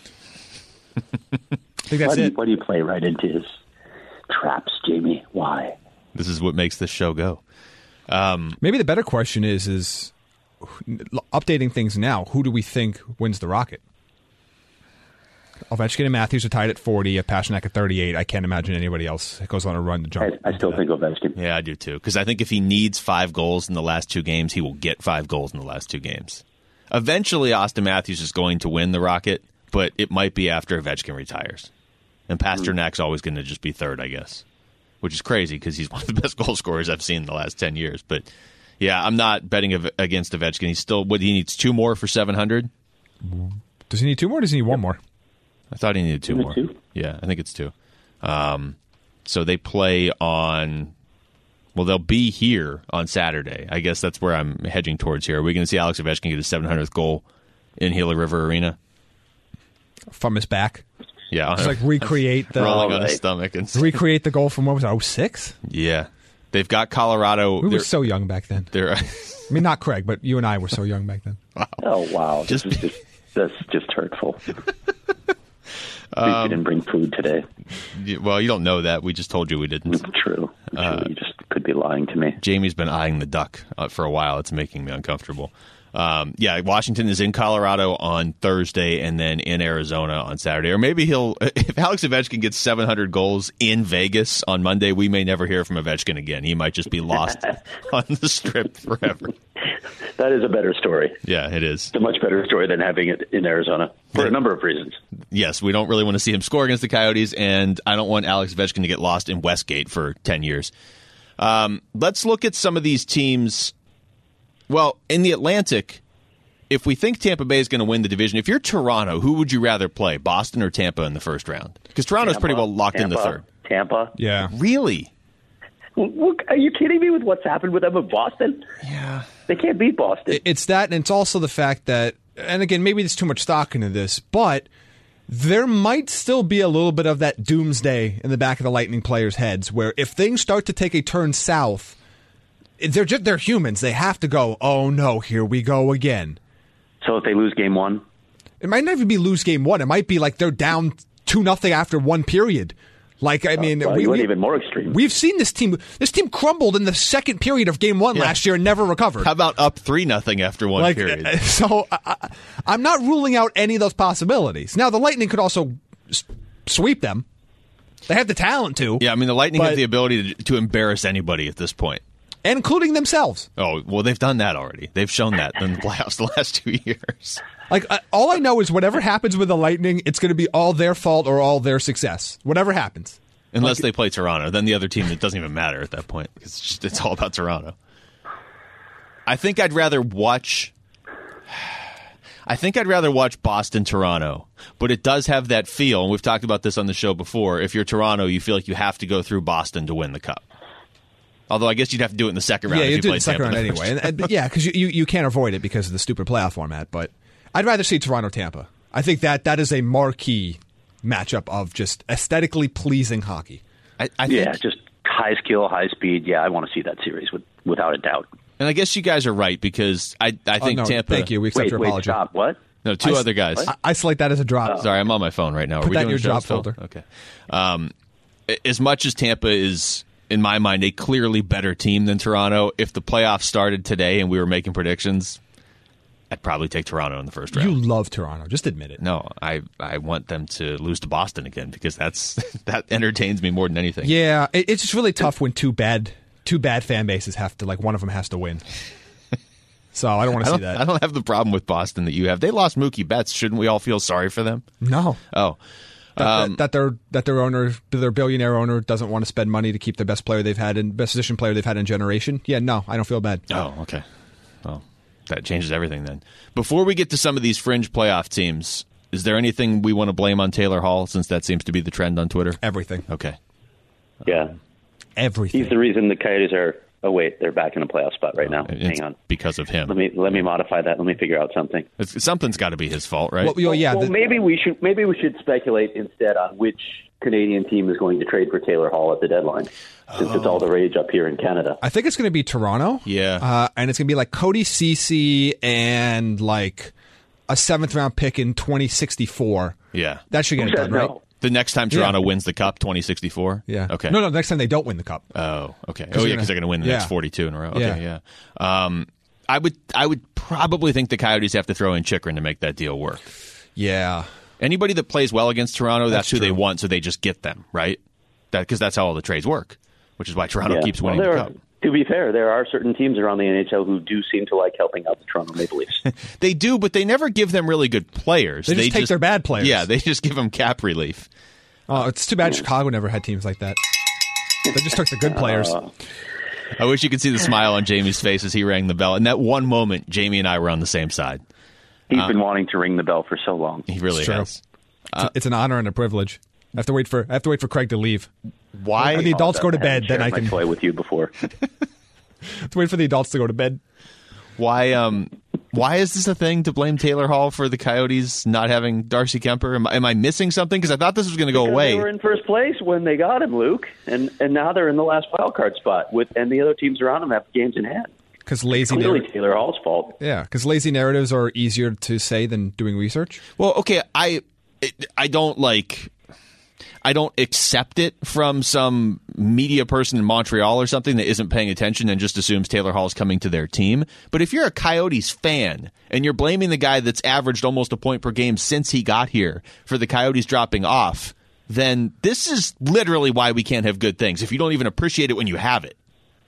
I think that's Why do, you, it. why do you play right into his traps, Jamie? Why? This is what makes this show go. Maybe the better question is is updating things now. Who do we think wins the Rocket? Ovechkin and Matthews are tied at forty. Pasternak at thirty-eight. I can't imagine anybody else goes on a run to jump. I, I still think Ovechkin. Yeah, I do too. Because I think if he needs five goals in the last two games, he will get five goals in the last two games. Eventually, Austin Matthews is going to win the Rocket, but it might be after Ovechkin retires. And Pasternak's always going to just be third, I guess, which is crazy because he's one of the best goal scorers I've seen in the last ten years. But, yeah, I'm not betting av- against Ovechkin. He's still, what, he needs two more for seven hundred? Does he need two more or does he need one more? I thought he needed two Is it more. two? Yeah, I think it's two. Um, so they play on, well, they'll be here on Saturday. I guess that's where I'm hedging towards here. Are we going to see Alex Ovechkin get his seven hundredth goal in Gila River Arena? From his back. Yeah. Just like recreate the rolling on his Right. stomach. And recreate the goal from what was it, oh six? yeah. They've got Colorado. We were They're, so young back then. they're, I mean, not Craig, but you and I were so young back then. Oh wow, Just- this is just that's just hurtful. we Um, didn't bring food today. well, you don't know that. We just told you we didn't. True. True. Uh, you just could be lying to me. Jamie's been eyeing the duck uh, for a while. It's making me uncomfortable. Um, yeah, Washington is in Colorado on Thursday and then in Arizona on Saturday. Or maybe he'll, if Alex Ovechkin gets seven hundred goals in Vegas on Monday, we may never hear from Ovechkin again. He might just be lost on the strip forever. That is a better story. Yeah, it is. It's a much better story than having it in Arizona for a number of reasons. Yes, we don't really want to see him score against the Coyotes, and I don't want Alex Ovechkin to get lost in Westgate for ten years. Um, let's look at some of these teams. Well, in the Atlantic, if we think Tampa Bay is going to win the division, if you're Toronto, who would you rather play, Boston or Tampa in the first round? Because Toronto's pretty well locked Tampa, in the third. Tampa. Yeah. Really? Look, are you kidding me with what's happened with them in Boston? Yeah. They can't beat Boston. It's that, and it's also the fact that, and again, maybe there's too much stock into this, but there might still be a little bit of that doomsday in the back of the Lightning players' heads, where if things start to take a turn south, they're just they're humans. They have to go, oh no, here we go again. So if they lose game one, It might not even be lose game one. It might be like they're down two nothing after one period. Like I mean, well, we, you went we, even more extreme. we've seen this team. This team crumbled in the second period of game one Yeah. last year and never recovered. How about up three nothing after one Like, period? uh, so I, I- I'm not ruling out any of those possibilities. Now, the Lightning could also s- sweep them. They have the talent to, Yeah, I mean, the Lightning but- have the ability to, to embarrass anybody at this point. including themselves. Oh, well, they've done that already. They've shown that in the playoffs the last two years. Like uh, all I know is whatever happens with the Lightning, it's going to be all their fault or all their success. Whatever happens. Unless they play Toronto. Then the other team, it doesn't even matter at that point. It's, just, it's all about Toronto. I think I'd rather watch... I think I'd rather watch Boston-Toronto. But it does have that feel, and we've talked about this on the show before. If you're Toronto, you feel like you have to go through Boston to win the Cup. Although I guess you'd have to do it in the second round Yeah, if you you do played the second Tampa round in the anyway. first And, and, yeah, because you, you, you can't avoid it because of the stupid playoff format. But I'd rather see Toronto-Tampa. I think that that is a marquee matchup of just aesthetically pleasing hockey. I, I think, yeah, just high skill, high speed. Yeah, I want to see that series with, without a doubt. and I guess you guys are right because I, I Oh, think no, Tampa... thank you. We accept Wait, your wait, apology. stop. What? No, two I, other guys. I, isolate that as a drop. Sorry, I'm on my phone right now. Are Put we that in doing your shows, drop Phil? folder. Okay. Um, as much as Tampa is, in my mind, a clearly better team than Toronto, if the playoffs started today and we were making predictions, I'd probably take Toronto in the first round. You love Toronto. Just admit it. No, I I want them to lose to Boston again because that's that entertains me more than anything. Yeah, it, it's just really tough when two bad two bad fan bases have to, like, one of them has to win. So I don't want I to see don't, that. I don't have the problem with Boston that you have. They lost Mookie Betts. Shouldn't we all feel sorry for them? No. Oh. That, Um, that, that their that their owner, their billionaire owner, doesn't want to spend money to keep the best player they've had and best position player they've had in a generation. Yeah, no, I don't feel bad. Oh, okay. Well, that changes everything then. Before we get to some of these fringe playoff teams, is there anything we want to blame on Taylor Hall, since that seems to be the trend on Twitter? Everything. Okay. Yeah. Everything. He's the reason the Coyotes are. Oh wait, they're back in a playoff spot right now. It's Hang on. because of him. Let me let me modify that. Let me figure out something. It's, something's got to be his fault, right? Well, well, yeah. well, the- maybe we should maybe we should speculate instead on which Canadian team is going to trade for Taylor Hall at the deadline, since it's all the rage up here in Canada. I think it's going to be Toronto. Yeah. Uh, and it's going to be like Cody Ceci and like a seventh round pick in twenty sixty-four. yeah. That should get it done, right? No. The next time Toronto Yeah. wins the Cup, twenty sixty-four? Yeah. Okay. No, no. Next time they don't win the cup. Oh, okay. Oh, they're yeah, gonna- because they're going to win the yeah. next forty-two in a row. Okay, Yeah. yeah. Um, I would, I would probably think the Coyotes have to throw in Chychrun to make that deal work. Yeah. Anybody that plays well against Toronto, that's, That's who they true. want, so they just get them, right? That because that's how all the trades work, which is why Toronto Yeah. keeps Well, winning there the are- Cup. To be fair, there are certain teams around the N H L who do seem to like helping out the Toronto Maple Leafs. They do, but they never give them really good players. They just take their bad players. Yeah, they just give them cap relief. Oh, it's too bad Chicago never had teams like that. They just took the good players. Uh, I wish you could see the smile on Jamie's face as he rang the bell. In that one moment, Jamie and I were on the same side. He's Uh, been wanting to ring the bell for so long. He really It's true. has. It's- it's an honor and a privilege. I have to wait for I have to wait for Craig to leave. Why? When the adults go to I haven't bed, then I shared can my toy with you before. I have to wait for the adults to go to bed. Why? Um. Why is this a thing to blame Taylor Hall for the Coyotes not having Darcy Kemper? Am, am I missing something? Because I thought this was going to go Because away. They were in first place when they got him, Luke, and and now they're in the last wild card spot. With and the other teams around them have games in hand. Because lazy Clearly, narratives. Taylor Hall's fault. Yeah, because lazy narratives are easier to say than doing research. Well, okay, I I don't like I don't accept it from some media person in Montreal or something that isn't paying attention and just assumes Taylor Hall's coming to their team. But if you're a Coyotes fan and you're blaming the guy that's averaged almost a point per game since he got here for the Coyotes dropping off, then this is literally why we can't have good things if you don't even appreciate it when you have it.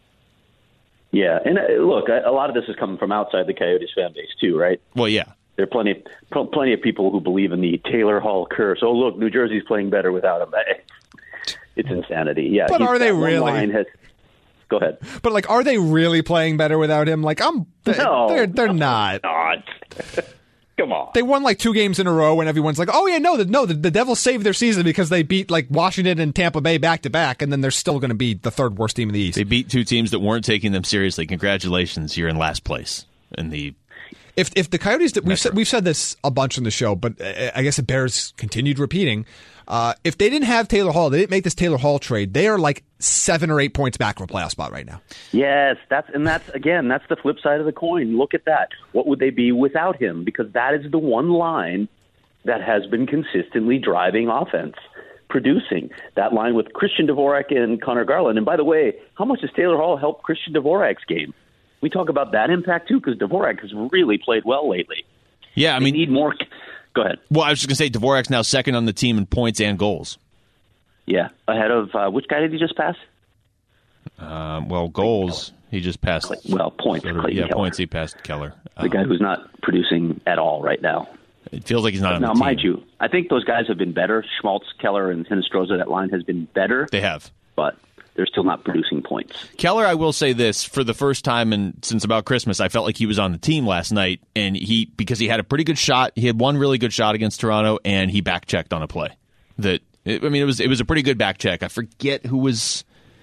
Yeah, and uh, look, a a lot of this is coming from outside the Coyotes fan base too, right? Well, yeah. There are plenty, pl- plenty of people who believe in the Taylor Hall curse. Oh, look, New Jersey's playing better without him. It's insanity. Yeah, But he's- are they that one really? line has- Go ahead. But like, are they really playing better without him? Like, I'm. They, No. they're they're not. God. Come on. They won like two games in a row, and everyone's like, "Oh yeah, no, the, no, the, the Devils saved their season because they beat like Washington and Tampa Bay back to back, and then they're still going to be the third worst team in the East." They beat two teams that weren't taking them seriously. Congratulations, you're in last place in the If if the Coyotes, we've Metro. said, we've said this a bunch in the show, but uh, I guess it bears continued repeating. Uh, if they didn't have Taylor Hall, they didn't make this Taylor Hall trade, they are like seven or eight points back from a playoff spot right now. Yes, that's and that's again, that's the flip side of the coin. Look at that. What would they be without him? Because that is the one line that has been consistently driving offense, producing that line with Christian Dvorak and Connor Garland. And by the way, how much has Taylor Hall helped Christian Dvorak's game? We talk about that impact too, because Dvorak has really played well lately. Yeah, I They mean, need more. Go ahead. well, I was just going to say Dvorak's now second on the team in points and goals. Yeah, ahead of uh, which guy did he just pass? Um, well, goals, he just passed. Well, points. sort of- Clayton yeah, Keller. points, he passed Keller. The Um, guy who's not producing at all right now. it feels like he's not on Now, the team. mind you, I think those guys have been better. Schmaltz, Keller, and Hinostroza, that line has been better, They have. but they're still not producing points. Keller, I will say this, for the first time in, since about Christmas, I felt like he was on the team last night, and he because he had a pretty good shot. He had one really good shot against Toronto, and he back checked on a play. That I mean, it was it was a pretty good back check. I forget who was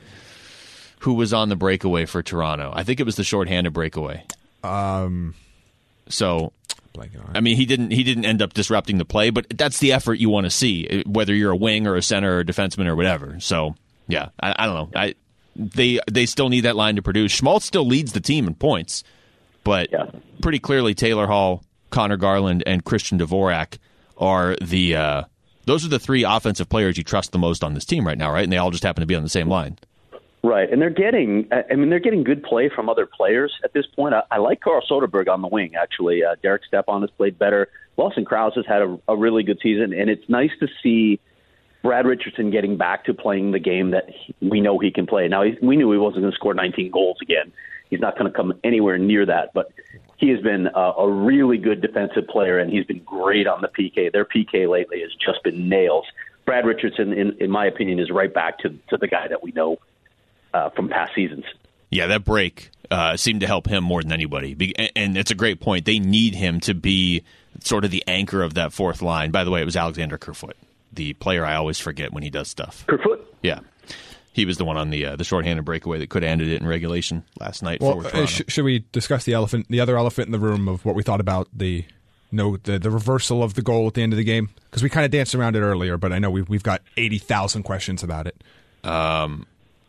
who was on the breakaway for Toronto. I think it was the shorthanded breakaway. Um, So blanking on it. I mean, he didn't he didn't end up disrupting the play, but that's the effort you want to see, whether you're a wing or a center or a defenseman or whatever. So yeah, I, I don't know. I they they still need that line to produce. Schmaltz still leads the team in points, but Yeah. pretty clearly Taylor Hall, Connor Garland, and Christian Dvorak are the uh, those are the three offensive players you trust the most on this team right now, right? And they all just happen to be on the same line. Right, and they're getting, I mean, they're getting good play from other players at this point. I, I like Carl Soderberg on the wing, actually. Uh, Derek Stepan has played better. Lawson Krause has had a, a really good season, and it's nice to see Brad Richardson getting back to playing the game that he, we know he can play. Now, he, we knew he wasn't going to score nineteen goals again. He's not going to come anywhere near that, but he has been a, a really good defensive player, and he's been great on the P K. Their P K lately has just been nails. Brad Richardson, in, in my opinion, is right back to, to the guy that we know Uh, from past seasons. Yeah, that break uh, seemed to help him more than anybody. Be- and it's a great point. They need him to be sort of the anchor of that fourth line. By the way, it was Alexander Kerfoot, the player I always forget when he does stuff. Kerfoot? Yeah. He was the one on the uh, the shorthanded breakaway that could have ended it in regulation last night. Well, for uh, sh- should we discuss the elephant, the other elephant in the room of what we thought about the no the, the reversal of the goal at the end of the game? Because we kind of danced around it earlier, but I know we've, we've got eighty thousand questions about it. Um.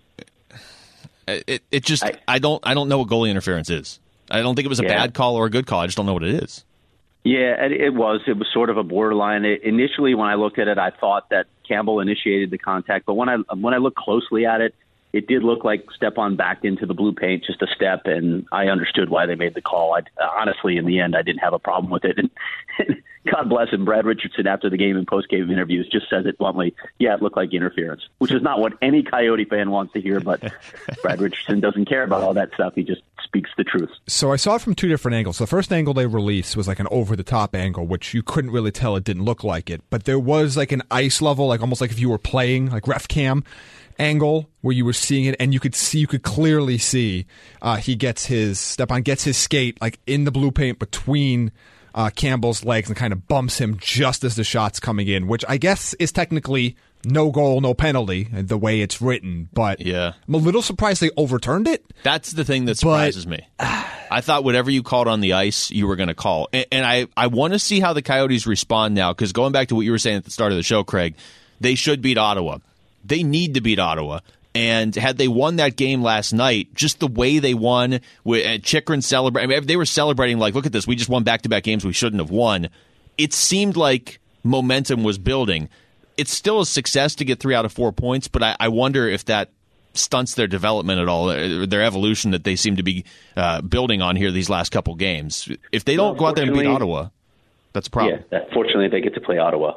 It it just I, I don't I don't know what goalie interference is. I don't think it was a yeah. bad call or a good call. I just don't know what it is. Yeah, it, it was. It was sort of a borderline. It, initially, when I looked at it, I thought that Campbell initiated the contact. But when I when I looked closely at it, it did look like Stepan backed into the blue paint just a step, and I understood why they made the call. I, honestly, in the end, I didn't have a problem with it. And, and God bless him, Brad Richardson, after the game and post-game interviews, just says it bluntly, yeah, it looked like interference, which is not what any Coyote fan wants to hear, but Brad Richardson doesn't care about all that stuff. He just speaks the truth. So I saw it from two different angles. The first angle they released was like an over-the-top angle, which you couldn't really tell it didn't look like it, but there was like an ice level, like almost like if you were playing, like ref cam angle where you were seeing it, and you could see, you could clearly see uh, he gets his, Stepan gets his skate like in the blue paint between Uh, Campbell's legs and kind of bumps him just as the shot's coming in, which I guess is technically no goal, no penalty, the way it's written. But yeah. I'm a little surprised they overturned it. That's the thing that surprises but, me. I thought whatever you called on the ice, you were going to call. And, and I, I want to see how the Coyotes respond now, because going back to what you were saying at the start of the show, Craig, they should beat Ottawa. They need to beat Ottawa. And had they won that game last night, just the way they won, with Chychrun celebrating, I mean, they were celebrating like, look at this, we just won back-to-back games we shouldn't have won. It seemed like momentum was building. It's still a success to get three out of four points, but I, I wonder if that stunts their development at all, their evolution that they seem to be uh, building on here these last couple games. If they don't well, go out there and beat Ottawa, that's a problem. Yeah, that, fortunately they get to play Ottawa.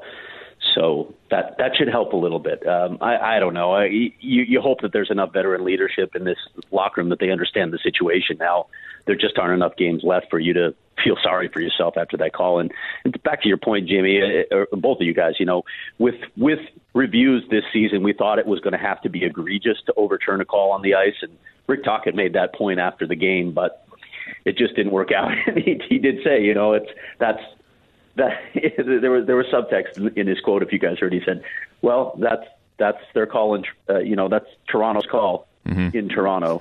So that that should help a little bit. Um, I, I don't know. I, you, you hope that there's enough veteran leadership in this locker room that they understand the situation now. There just aren't enough games left for you to feel sorry for yourself after that call. And, and back to your point, Jamie, or both of you guys, you know, with with reviews this season, we thought it was going to have to be egregious to overturn a call on the ice. And Rick Tocchet made that point after the game, but it just didn't work out. And he, he did say, you know, it's that's. That, there was there was subtext in his quote. If you guys heard, he said, "Well, that's that's their call, in, uh, you know, that's Toronto's call mm-hmm. in Toronto."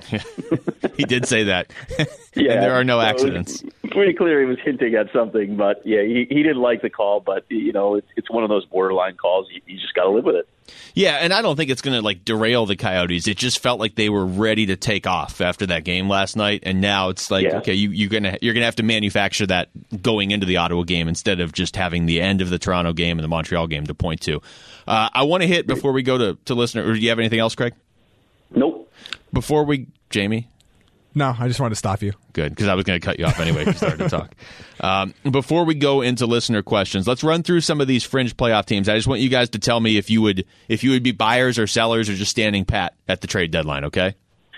He did say that. Yeah, and there are no so accidents. Pretty clear he was hinting at something, but yeah, he, he didn't like the call. But you know, it's it's one of those borderline calls. You, you just got to live with it. Yeah, and I don't think it's going to like derail the Coyotes. It just felt like they were ready to take off after that game last night, and now it's like, yeah. okay, you, you're gonna you're gonna have to manufacture that going into the Ottawa game instead of just having the end of the Toronto game and the Montreal game to point to. Uh, I want to hit before we go to to listener. Or do you have anything else, Craig? Nope. Before we, Jamie. No, I just wanted to stop you. Good, because I was going to cut you off anyway if you started to talk. Um, before we go into listener questions, let's run through some of these fringe playoff teams. I just want you guys to tell me if you would if you would be buyers or sellers or just standing pat at the trade deadline, okay?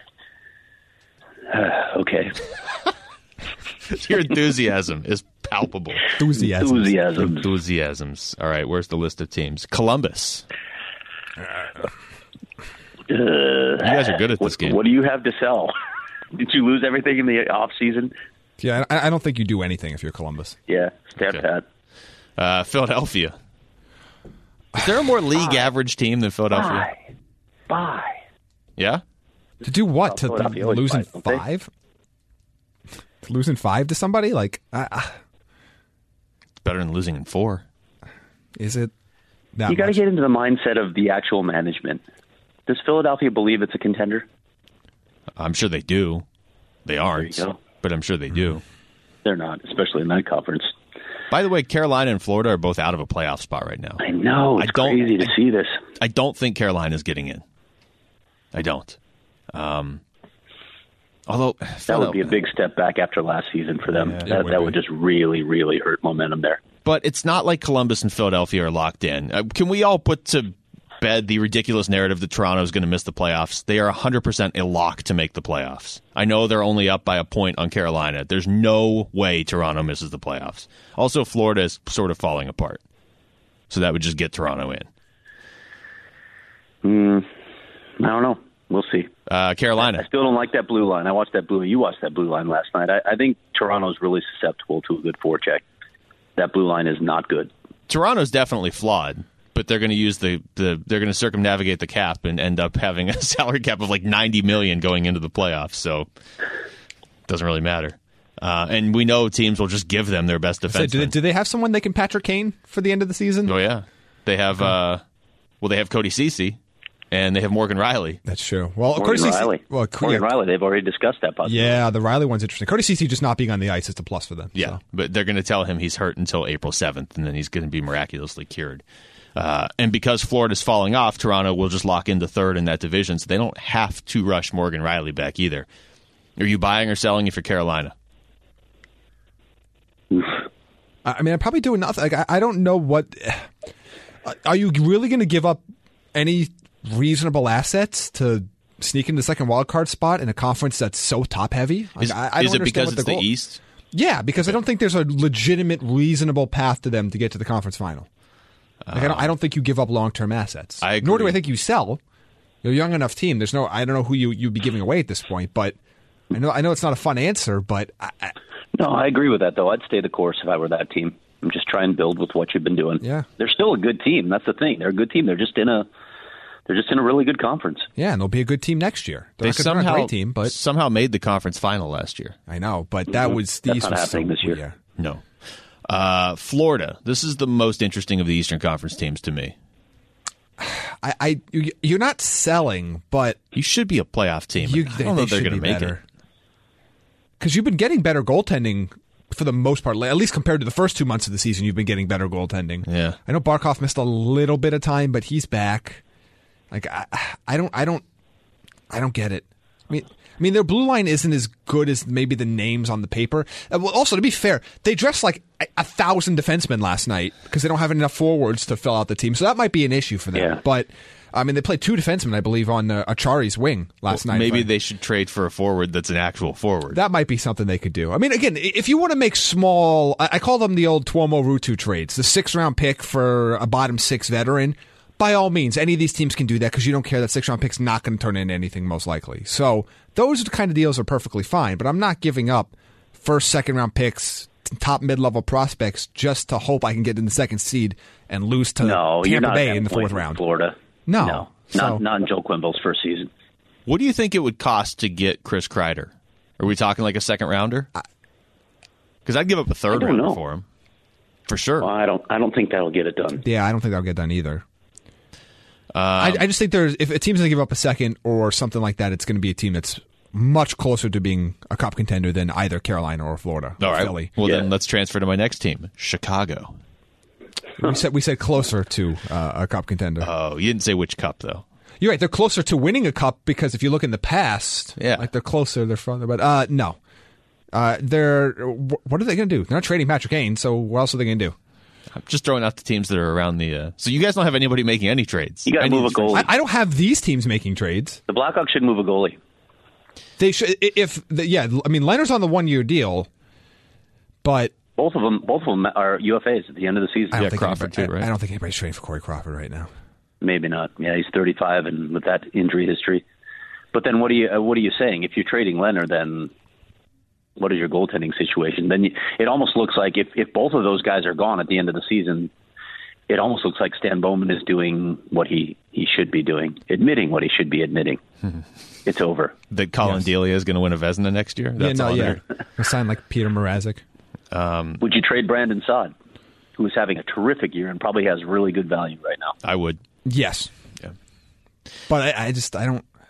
Uh, okay. Your enthusiasm is palpable. Enthusiasms. Enthusiasms. Enthusiasms. All right, where's the list of teams? Columbus. Uh, you guys are good at this what, game. What do you have to sell? Did you lose everything in the off season? Yeah, I, I don't think you do anything if you're Columbus. Yeah, stand okay. pat. Uh, Philadelphia. Is there a more league Bye. average team than Philadelphia? Bye. Bye. Yeah? To do what? Well, to to losing buys, five? To losing five to somebody? Like, uh, It's better than losing in four. Is it that You got to much? get into the mindset of the actual management. Does Philadelphia believe it's a contender? I'm sure they do. They aren't, There you go. but I'm sure they do. They're not, especially in that conference. By the way, Carolina and Florida are both out of a playoff spot right now. I know. It's I don't, crazy to I, see this. I don't think Carolina's getting in. I don't. Um, although that would be a big step back after last season for them. Yeah, that would that be. would just really, really hurt momentum there. But it's not like Columbus and Philadelphia are locked in. Uh, can we all put to bed the ridiculous narrative that Toronto is going to miss the playoffs? They are one hundred percent a lock to make the playoffs. I know they're only up by a point on Carolina. There's no way Toronto misses the playoffs. Also, Florida is sort of falling apart. So that would just get Toronto in. Mm, I don't know. We'll see. Uh, Carolina. I still don't like that blue line. I watched that blue. You watched that blue line last night. I, I think Toronto's really susceptible to a good forecheck. That blue line is not good. Toronto's definitely flawed, but they're going to use the, the they're going to circumnavigate the cap and end up having a salary cap of like ninety million going into the playoffs. So it doesn't really matter. Uh, and we know teams will just give them their best defenseman. So do, they, do they have someone they can Patrick Kane for the end of the season? Oh yeah, they have. Uh, well, they have Cody Ceci, and they have Morgan Riley. That's true. Well, Morgan Cody Riley. Ceci, well, Morgan yeah, Riley. They've already discussed that possibility. yeah, the Riley one's interesting. Cody Ceci just not being on the ice is a plus for them. Yeah, so. but they're going to tell him he's hurt until April seventh, and then he's going to be miraculously cured. Uh, and because Florida's falling off, Toronto will just lock into third in that division, so they don't have to rush Morgan Riley back either. Are you buying or selling if you're Carolina? I mean, I'm probably doing nothing. Like, I, I don't know what. Are you really going to give up any reasonable assets to sneak into the second wild card spot in a conference that's so top heavy? Like, Is, I, I is don't it understand because what it's the, goal- East? Yeah, because I don't think there's a legitimate, reasonable path to them to get to the conference final. Like, I don't. I don't think you give up long term assets. I agree. Nor do I think you sell. You're a young enough team. There's no. I don't know who you you'd be giving away at this point, but I know. I know it's not a fun answer, but. I, I, No, I agree with that, though. I'd stay the course if I were that team. I'm just trying to build with what you've been doing. Yeah. They're still a good team. That's the thing. They're a good team. They're just in a they're just in a really good conference. Yeah, and they'll be a good team next year. They're, They not, they're not somehow a great team, but somehow made the conference final last year. I know. But that was That's these not was happening so, this year. Yeah. No. Uh, Florida. This is the most interesting of the Eastern Conference teams to me. I, I you- you're not selling, but You should be a playoff team. you, I don't know if they're going to make it. Because you've been getting better goaltending for the most part, at least compared to the first two months of the season. You've been getting better goaltending. Yeah. I know Barkov missed a little bit of time, but he's back. Like I, I don't, I don't, I don't get it. I mean, I mean, their blue line isn't as good as maybe the names on the paper. Uh, well, also, to be fair, they dressed like a, a thousand defensemen last night because they don't have enough forwards to fill out the team. So that might be an issue for them. Yeah. But I mean, they played two defensemen, I believe, on uh, Achari's wing last Well, night. maybe if I- they should trade for a forward that's an actual forward. that might be something they could do. I mean, again, if you want to make small, I, I call them the old Tuomo Ruutu trades, the six round pick for a bottom six veteran. By all means, any of these teams can do that because you don't care that six round pick's not going to turn into anything most likely. So those kind of deals are perfectly fine. But I'm not giving up first, second round picks, top mid level prospects just to hope I can get in the second seed and lose to No, you're Tampa not Bay at that in the point fourth with round. Florida. No. No. So- Not, not in Joe Quimble's first season. What do you think it would cost to get Chris Kreider? Are we talking like a second rounder? Because I'd give up a third I don't rounder know. for him. For sure. Well, I don't. I don't think that'll get it done. Yeah, I don't think that'll get done either. Um, I, I just think there's if a team's going to give up a second or something like that, it's going to be a team that's much closer to being a cup contender than either Carolina or Florida All or right. Philly. Well, Yeah. then let's transfer to my next team, Chicago. We said we said closer to uh, a cup contender. Oh, you didn't say which cup, though. You're right. They're closer to winning a cup because if you look in the past, Yeah. like they're closer, they're further. But uh, no, uh, they're wh- what are they going to do? They're not trading Patrick Kane, so what else are they going to do? I'm just throwing out the teams that are around the. Uh, so you guys don't have anybody making any trades. You got to Any move a trades. goalie. I, I don't have these teams making trades. The Blackhawks should move a goalie. They should. If the, yeah, I mean Leonard's on the one year deal, but Both of them. Both of them are U F As at the end of the season. I don't Yeah, think Crawford anybody, too, right? I, I don't think anybody's trading for Corey Crawford right now. Maybe not. Yeah, he's thirty-five, and with that injury history. But then, what are you? Uh, what are you saying? If you're trading Leonard, then what is your goaltending situation? Then you, it almost looks like if if both of those guys are gone at the end of the season, it almost looks like Stan Bowman is doing what he he should be doing, admitting what he should be admitting. It's over. That Colin Yes. Delia is going to win a Vezina next year. That's yeah, no, all yeah. there. He'll sign like Peter Mrazek. Would you trade Brandon Saad, who is having a terrific year and probably has really good value right now? I would. Yes, Yeah. but I, I just I don't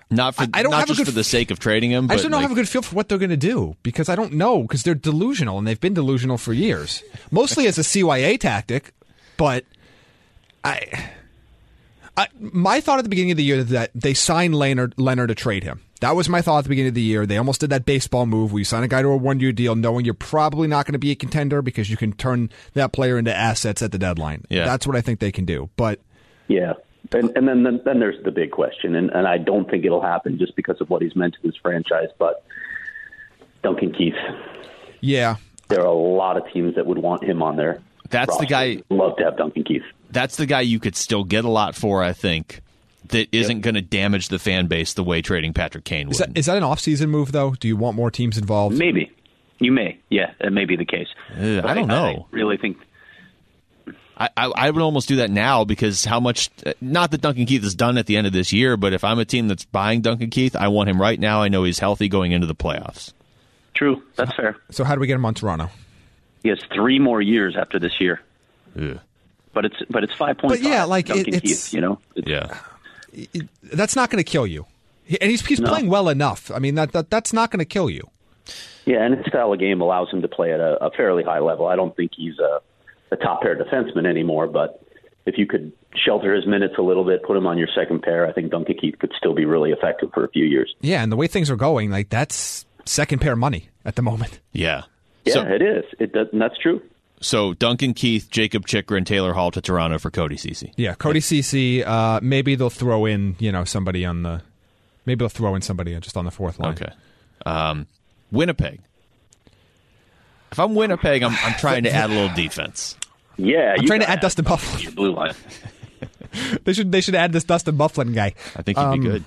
Not for I, I don't not have just a good, for the sake of trading him. I but just don't like, have a good feel for what they're going to do because I don't know because they're delusional and they've been delusional for years, mostly as a C Y A tactic. But I, I, my thought at the beginning of the year that they signed Leonard, Leonard to trade him. That was my thought at the beginning of the year. They almost did that baseball move where you sign a guy to a one-year deal knowing you're probably not going to be a contender because you can turn that player into assets at the deadline. Yeah. That's what I think they can do. But yeah, and, and then, then then there's the big question, and, and I don't think it'll happen just because of what he's meant to this franchise, but Duncan Keith. Yeah. There are a lot of teams that would want him on their That's roster. the guy. Love to have Duncan Keith. That's the guy you could still get a lot for, I think, that isn't Yep. going to damage the fan base the way trading Patrick Kane would. Is that, is that an off-season move, though? Do you want more teams involved? Maybe. You may. Yeah, that may be the case. Uh, I don't know. I really think... I, I, I would almost do that now because how much, not that Duncan Keith is done at the end of this year, but if I'm a team that's buying Duncan Keith, I want him right now. I know he's healthy going into the playoffs. True. That's fair. So how do we get him on Toronto? He has three more years after this year. Ugh. But it's but it's five point five. But yeah, like, Duncan it- it's- Keith, you know? It's, Yeah. That's not going to kill you. He- And he's, he's No. playing well enough. I mean, that, that that's not going to kill you. Yeah, and his style of game allows him to play at a, a fairly high level. I don't think he's a, a top pair defenseman anymore, but if you could shelter his minutes a little bit, put him on your second pair, I think Duncan Keith could still be really effective for a few years. Yeah, and the way things are going, like that's second pair money at the moment. Yeah. Yeah, So, it is. It does, and that's true. so Duncan Keith, Jacob Chikrin, Taylor Hall to Toronto for Cody Ceci. Yeah, Cody Ceci. Uh, maybe they'll throw in, you know, somebody on the. Maybe they'll throw in somebody just on the fourth line. Okay. Um, Winnipeg. If I'm Winnipeg, I'm, I'm trying to add a little defense. Yeah, I'm you trying to gotta add Dustin Bufflin. your blue line. They should they should add this Dustin Bufflin guy. I think he'd Um, be good.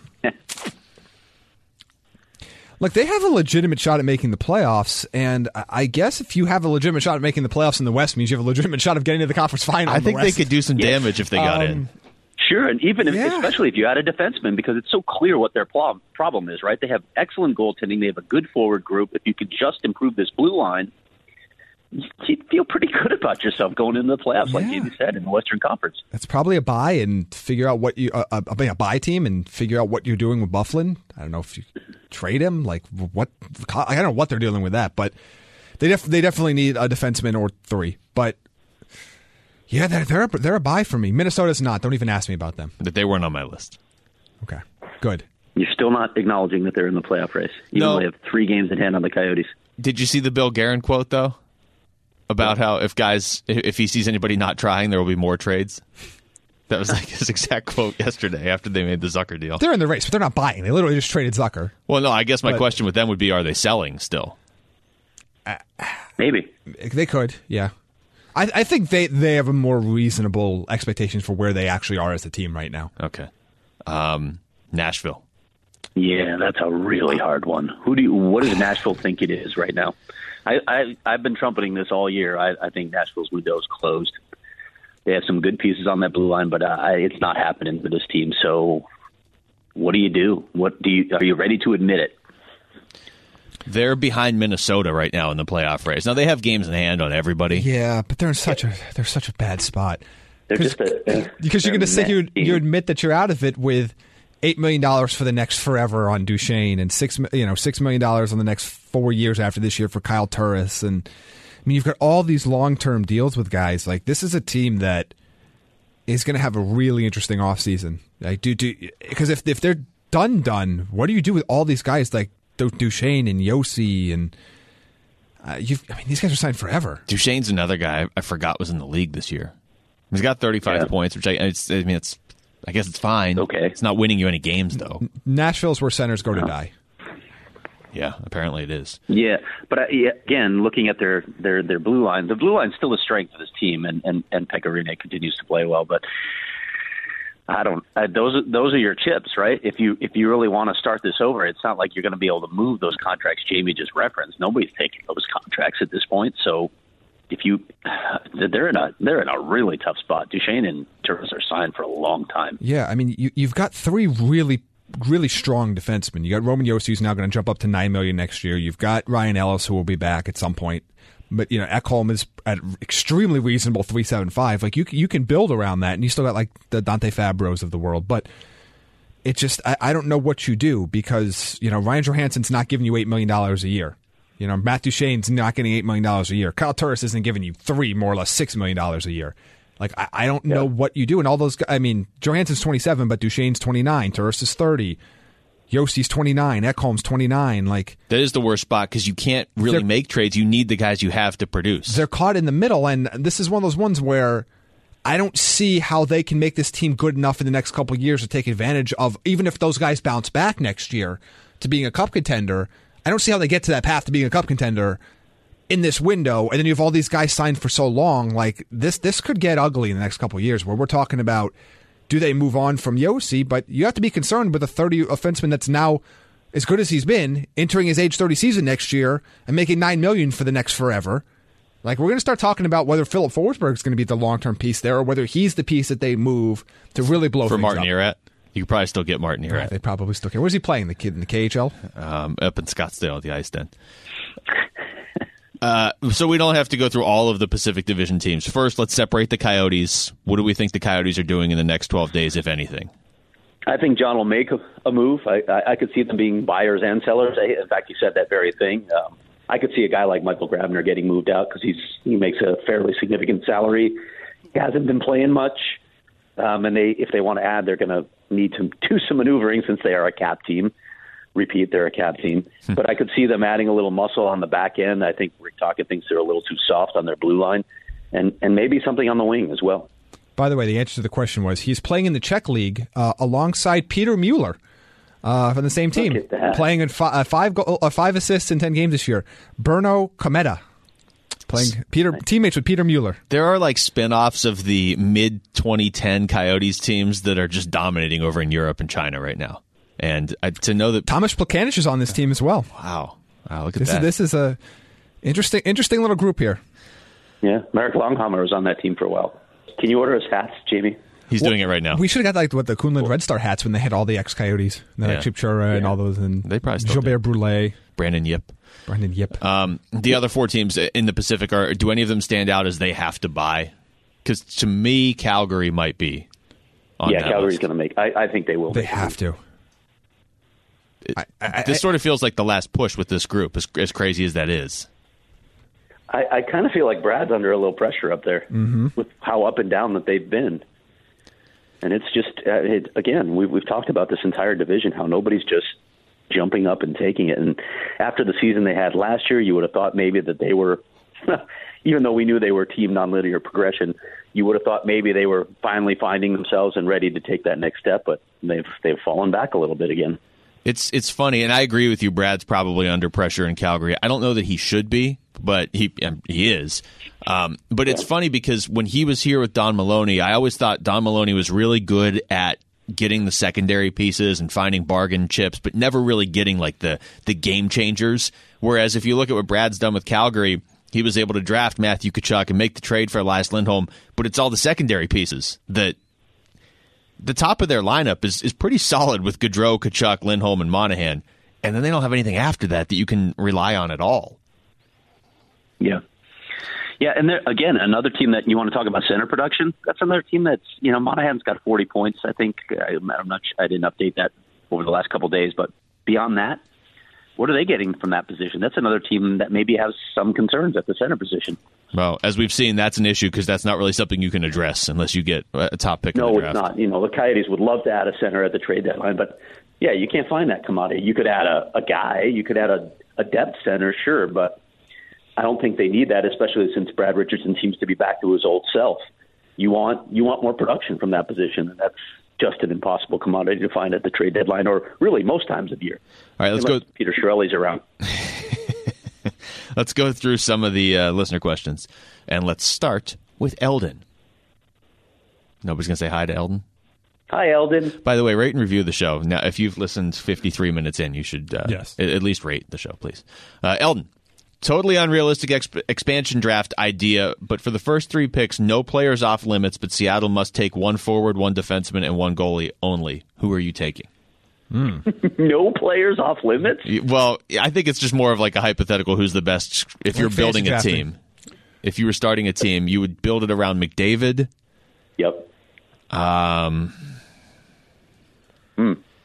Look, they have a legitimate shot at making the playoffs, and I- I guess if you have a legitimate shot at making the playoffs in the West, means you have a legitimate shot of getting to the conference final. I in the think they West. could do some Yes. damage if they got in. Sure, and even if, Yeah. especially if you add a defenseman, because it's so clear what their pl- problem is, right? They have excellent goaltending. They have a good forward group. If you could just improve this blue line, you'd feel pretty good about yourself going into the playoffs, like Yeah. Jamie said, in the Western Conference. That's probably a buy and figure out what you uh, a, a buy team and figure out what you're doing with Bufflin. I don't know if you trade him, like what I don't know what they're dealing with that, but they def- they definitely need a defenseman or three. But yeah, they're they're a, they're a buy for me. Minnesota's not. Don't even ask me about them. That they weren't on my list. Okay, good. You're still not acknowledging that they're in the playoff race, even No. though they have three games in hand on the Coyotes. Did you see the Bill Guerin quote, though? About how if guys, if he sees anybody not trying, there will be more trades? That was like his exact quote yesterday after they made the Zucker deal. They're in the race, but they're not buying. They literally just traded Zucker. Well, no, I guess my But- question with them would be, are they selling still? Maybe. They could, yeah. I, I think they, they have a more reasonable expectations for where they actually are as a team right now. Okay. Um, Nashville. Yeah, that's a really hard one. Who do you? What does Nashville think it is right now? I, I I've been trumpeting this all year. I, I think Nashville's window is closed. They have some good pieces on that blue line, but uh, I, it's not happening for this team. So, what do you do? What do you? Are you ready to admit it? They're behind Minnesota right now in the playoff race. Now they have games in hand on everybody. Yeah, but they're in such a they're such a bad spot. They're Because just a, because you're they're going to say a you mess team. you admit that you're out of it with eight million dollars for the next forever on Duchesne and six mi- you know six million dollars on the next four years after this year for Kyle Turris, and I mean you've got all these long term deals with guys. Like this is a team that is going to have a really interesting offseason. Like do do because if if they're done done, what do you do with all these guys like Du- Duchesne and Yossi and uh, you've I mean these guys are signed forever. Duchesne's another guy I forgot was in the league this year. He's got thirty-five Yeah. points, which I, it's, I mean, it's I guess it's fine. Okay. It's not winning you any games, though. Nashville's where centers go to die. Yeah, apparently it is. Yeah, but uh, yeah, again, looking at their, their, their blue line, the blue line's still a strength of this team, and and and Pecorine continues to play well. But I don't. Uh, those are, those are your chips, right? If you if you really want to start this over, it's not like you're going to be able to move those contracts Jamie just referenced. Nobody's taking those contracts at this point, so. If you, they're in a they're in a really tough spot. Duchesne and Turris are signed for a long time. Yeah, I mean, you, you've got three really, really strong defensemen. You got Roman Yossi, who's now going to jump up to nine million next year. You've got Ryan Ellis, who will be back at some point. But you know, Ekholm is at extremely reasonable three seven five. Like you, you can build around that, and you still got like the Dante Fabros of the world. But it just I, I don't know what you do because you know Ryan Johansson's not giving you eight million dollars a year. You know Matt Duchene's not getting eight million dollars a year. Kyle Turris isn't giving you three, more or less six million dollars a year. Like I, I don't know yeah. what you do, and all those. I mean, Johansson's twenty-seven, but Duchene's twenty-nine. Turris is thirty. Yosti's twenty-nine. Ekholm's twenty-nine. Like that is the worst spot because you can't really make trades. You need the guys you have to produce. They're caught in the middle, and this is one of those ones where I don't see how they can make this team good enough in the next couple of years to take advantage of, even if those guys bounce back next year to being a cup contender. I don't see how they get to that path to being a cup contender in this window, and then you have all these guys signed for so long. Like this, this could get ugly in the next couple of years. Where we're talking about, do they move on from Josi? But you have to be concerned with a thirty offenseman that's now as good as he's been, entering his age thirty season next year and making nine million for the next forever. Like we're going to start talking about whether Philip Forsberg is going to be the long term piece there, or whether he's the piece that they move to really blow for things Martin up. Erat. You could probably still get Martin Erat. Right, they probably still can. Where's he playing? The kid in the K H L? Um, up in Scottsdale at the Ice Den. Uh, so we don't have to go through all of the Pacific Division teams. First, let's separate the Coyotes. What do we think the Coyotes are doing in the next twelve days, if anything? I think John will make a, a move. I, I, I could see them being buyers and sellers. I, in fact, you said that very thing. Um, I could see a guy like Michael Grabner getting moved out because he's he makes a fairly significant salary. He hasn't been playing much, um, and they if they want to add, they're going to need to do some maneuvering since they are a cap team. Repeat, they're a cap team. But I could see them adding a little muscle on the back end. I think Rick Tocchet thinks they're a little too soft on their blue line, and, and maybe something on the wing as well. By the way, the answer to the question was he's playing in the Czech League uh, alongside Peter Mueller uh, from the same team, playing in fi- uh, five go- uh, five assists in ten games this year. Berno Kometa, playing Peter teammates with Peter Mueller. There are like spin-offs of the mid twenty ten Coyotes teams that are just dominating over in Europe and China right now. And uh, to know that Thomas Plekanec is on this team as well. Wow, wow, look at this that. Is, this is a interesting, interesting little group here. Yeah, Marek Longhammer was on that team for a while. Can you order his hats, Jamie? He's well, doing it right now. We should have got like what the Kunlun Red Star hats when they had all the ex-Coyotes, like Yeah. Chipchura Yeah. and all those, and They probably still Gilbert Brule, Brandon Yip. Brandon Yip. Um, the other four teams in the Pacific are. Do any of them stand out as they have to buy? Because to me, Calgary might be. On Yeah, that Calgary's list. going to make. I, I think they will. They make a have move. to. It- I- I- this I- sort of feels like the last push with this group, as, as crazy as that is. I, I kind of feel like Brad's under a little pressure up there Mm-hmm. with how up and down that they've been. And it's just, uh, it, again, we've, we've talked about this entire division, how nobody's just jumping up and taking it. And after the season they had last year, you would have thought maybe that they were, even though we knew they were team nonlinear progression, you would have thought maybe they were finally finding themselves and ready to take that next step, but they've they've fallen back a little bit again. It's it's funny, and I agree with you. Brad's probably under pressure in Calgary. I don't know that he should be, but he um, he is. Um, but it's funny because when he was here with Don Maloney, I always thought Don Maloney was really good at getting the secondary pieces and finding bargain chips, but never really getting like the the game changers. Whereas if you look at what Brad's done with Calgary, he was able to draft Matthew Tkachuk and make the trade for Elias Lindholm, but it's all the secondary pieces that. The top of their lineup is, is pretty solid with Gaudreau, Tkachuk, Lindholm, and Monahan. And then they don't have anything after that that you can rely on at all. Yeah. Yeah, and there, again, another team that you want to talk about center production, that's another team that's, you know, Monahan's got forty points, I think. I, I'm not I didn't update that over the last couple of days, but beyond that, what are they getting from that position? That's another team that maybe has some concerns at the center position. Well, as we've seen, that's an issue because that's not really something you can address unless you get a top pick in No, the it's draft. not. You know, the Coyotes would love to add a center at the trade deadline, but yeah, you can't find that commodity. You could add a, a guy, you could add a, a depth center, sure, but I don't think they need that, especially since Brad Richardson seems to be back to his old self. You want you want more production from that position, and that's just an impossible commodity to find at the trade deadline, or really most times of year. All right, let's Unless go. Peter Chiarelli's around. Let's go through some of the uh, listener questions, and let's start with Eldon. Nobody's going to say hi to Eldon? Hi, Eldon. By the way, rate and review the show. Now, if you've listened fifty-three minutes in, you should uh, Yes. at, at least rate the show, please. Uh, Eldon, totally unrealistic exp- expansion draft idea, but for the first three picks, no players off limits, but Seattle must take one forward, one defenseman, and one goalie only. Who are you taking? No players off limits? Well, I think it's just more of like a hypothetical who's the best. If you're Like building fantasy a drafting. team, if you were starting a team, you would build it around McDavid. Yep. Um,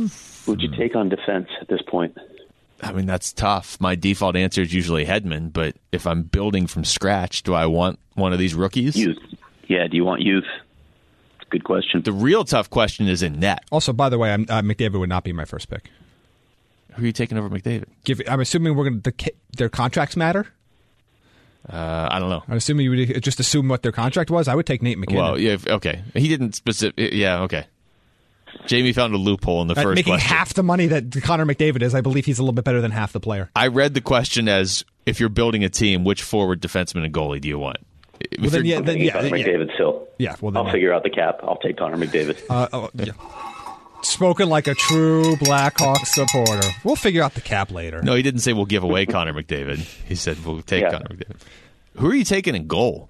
Who'd you take on defense at this point? I mean, that's tough. My default answer is usually Hedman, but if I'm building from scratch, do I want one of these rookies? Youth. Yeah, do you want youth? It's a good question. The real tough question is in net. Also, by the way, I'm, uh, McDavid would not be my first pick. Who are you taking over McDavid? Give, I'm assuming we're going to their contracts matter. Uh, I don't know. I'm assuming you would just assume what their contract was. I would take Nate McKinnon. Well, yeah, if- okay. He didn't specific. Yeah, okay. Jamie found a loophole in the Uh, first making question. half the money that Connor McDavid is, I believe he's a little bit better than half the player. I read the question as, if you're building a team, which forward, defenseman, and goalie do you want? If Well, then, you're- yeah, then, Take yeah, Connor yeah. McDavid still. Yeah, well, then, I'll figure out the cap. I'll take Connor McDavid. Uh, oh, yeah. Spoken like a true Blackhawks supporter. We'll figure out the cap later. No, he didn't say we'll give away Connor McDavid. He said we'll take Yeah. Connor McDavid. Who are you taking in goal?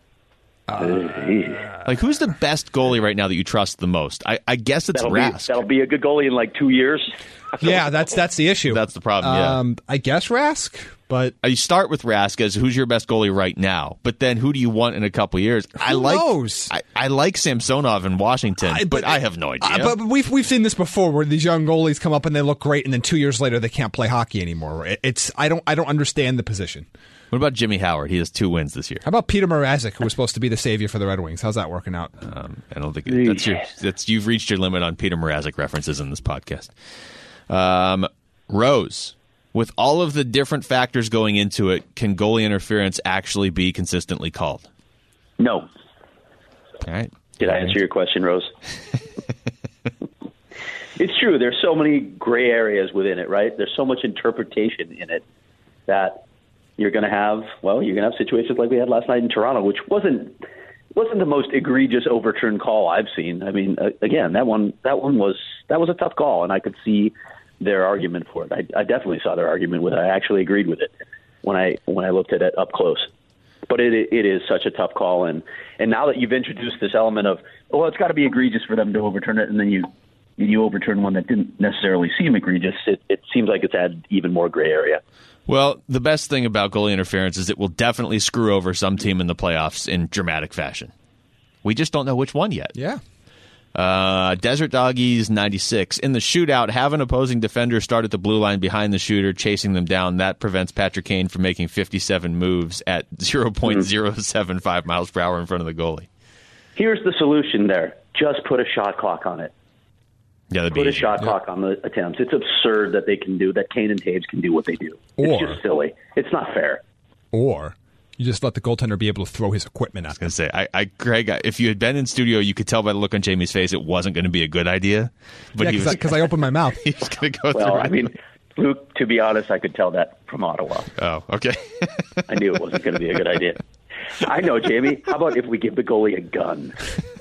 Uh, Like, who's the best goalie right now that you trust the most? I, I guess it's that'll, be, Rask. that'll be a good goalie in like two years. Yeah, that's that's the issue. That's the problem, yeah. Um, I guess Rask, but You start with Rask as who's your best goalie right now, but then who do you want in a couple years? I like knows? I, I like Samsonov in Washington, I- but, but- I have no idea. Uh, but we've we've seen this before, where these young goalies come up and they look great, and then two years later they can't play hockey anymore. It- It's I don't I don't understand the position. What about Jimmy Howard? He has two wins this year. How about Peter Mrazek, who was supposed to be the savior for the Red Wings? How's that working out? Um, I don't think it, that's your that's you've reached your limit on Peter Mrazek references in this podcast. Um, Rose, with all of the different factors going into it, can goalie interference actually be consistently called? No. All right. Did I answer your question, Rose? It's true. There's so many gray areas within it, right? There's so much interpretation in it that you're going to have, well, you're going to have situations like we had last night in Toronto, which wasn't wasn't the most egregious overturned call I've seen. I mean, uh, again, that one that one was that was a tough call, and I could see their argument for it. I, I definitely saw their argument with it. I actually agreed with it when I when I looked at it up close. But it it is such a tough call, and and now that you've introduced this element of, well, it's got to be egregious for them to overturn it, and then you you overturn one that didn't necessarily seem egregious, it, it seems like it's added even more gray area. Well, the best thing about goalie interference is it will definitely screw over some team in the playoffs in dramatic fashion. We just don't know which one yet. Yeah. Uh, Desert Doggies ninety-six. In the shootout, have an opposing defender start at the blue line behind the shooter, chasing them down. That prevents Patrick Kane from making fifty-seven moves at zero point zero seven five miles per hour in front of the goalie. Here's the solution there. Just put a shot clock on it. Yeah, that'd be Put a easy. shot clock on the attempts. It's absurd that they can do that. Kane and Taves can do what they do. It's Or- just silly. It's not fair. Or you just let the goaltender be able to throw his equipment at I was gonna say, I, I, Greg, I- if you had been in studio, you could tell by the look on Jamie's face it wasn't going to be a good idea. But Yeah, he was, because I, I opened my mouth. he was going to go Well, through. I mean, Luke, to be honest, I could tell that from Ottawa. oh, okay. I knew it wasn't going to be a good idea. I know, Jamie. How about if we give the goalie a gun?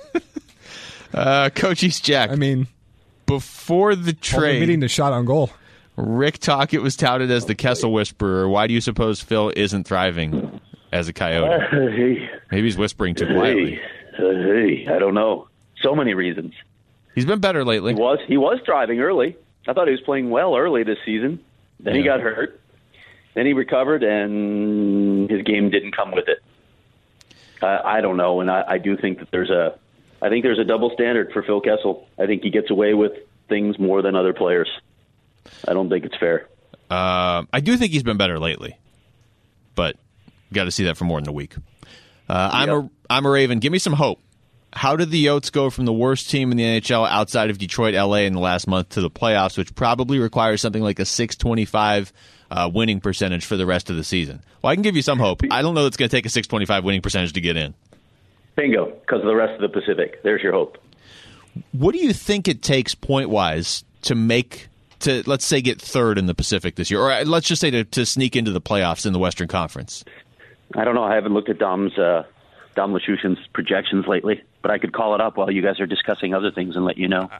uh, Coach East Jack. I mean, before the only trade, meeting the shot on goal. Rick Tocchet was touted as the Kessel Whisperer. Why do you suppose Phil isn't thriving as a Coyote? Uh, hey, Maybe he's whispering too quietly. hey, uh, hey, I don't know. So many reasons. He's been better lately. He was he was driving early. I thought he was playing well early this season. Then he Yeah. got hurt. Then he recovered, and his game didn't come with it. Uh, I don't know, and I, I do think that there's a, I think there's a double standard for Phil Kessel. I think he gets away with things more than other players. I don't think it's fair. Uh, I do think he's been better lately, but got to see that for more than a week. Uh, I'm Yep. a I'm a Raven. Give me some hope. How did the Yotes go from the worst team in the N H L outside of Detroit, L A in the last month to the playoffs, which probably requires something like a six twenty-five uh, winning percentage for the rest of the season? Well, I can give you some hope. I don't know that it's going to take a six twenty-five winning percentage to get in. Bingo, because of the rest of the Pacific. There's your hope. What do you think it takes point-wise to make to, let's say, get third in the Pacific this year? Or uh, let's just say to, to sneak into the playoffs in the Western Conference? I don't know. I haven't looked at Dom's uh, Dom Lashushin's projections lately, but I could call it up while you guys are discussing other things and let you know.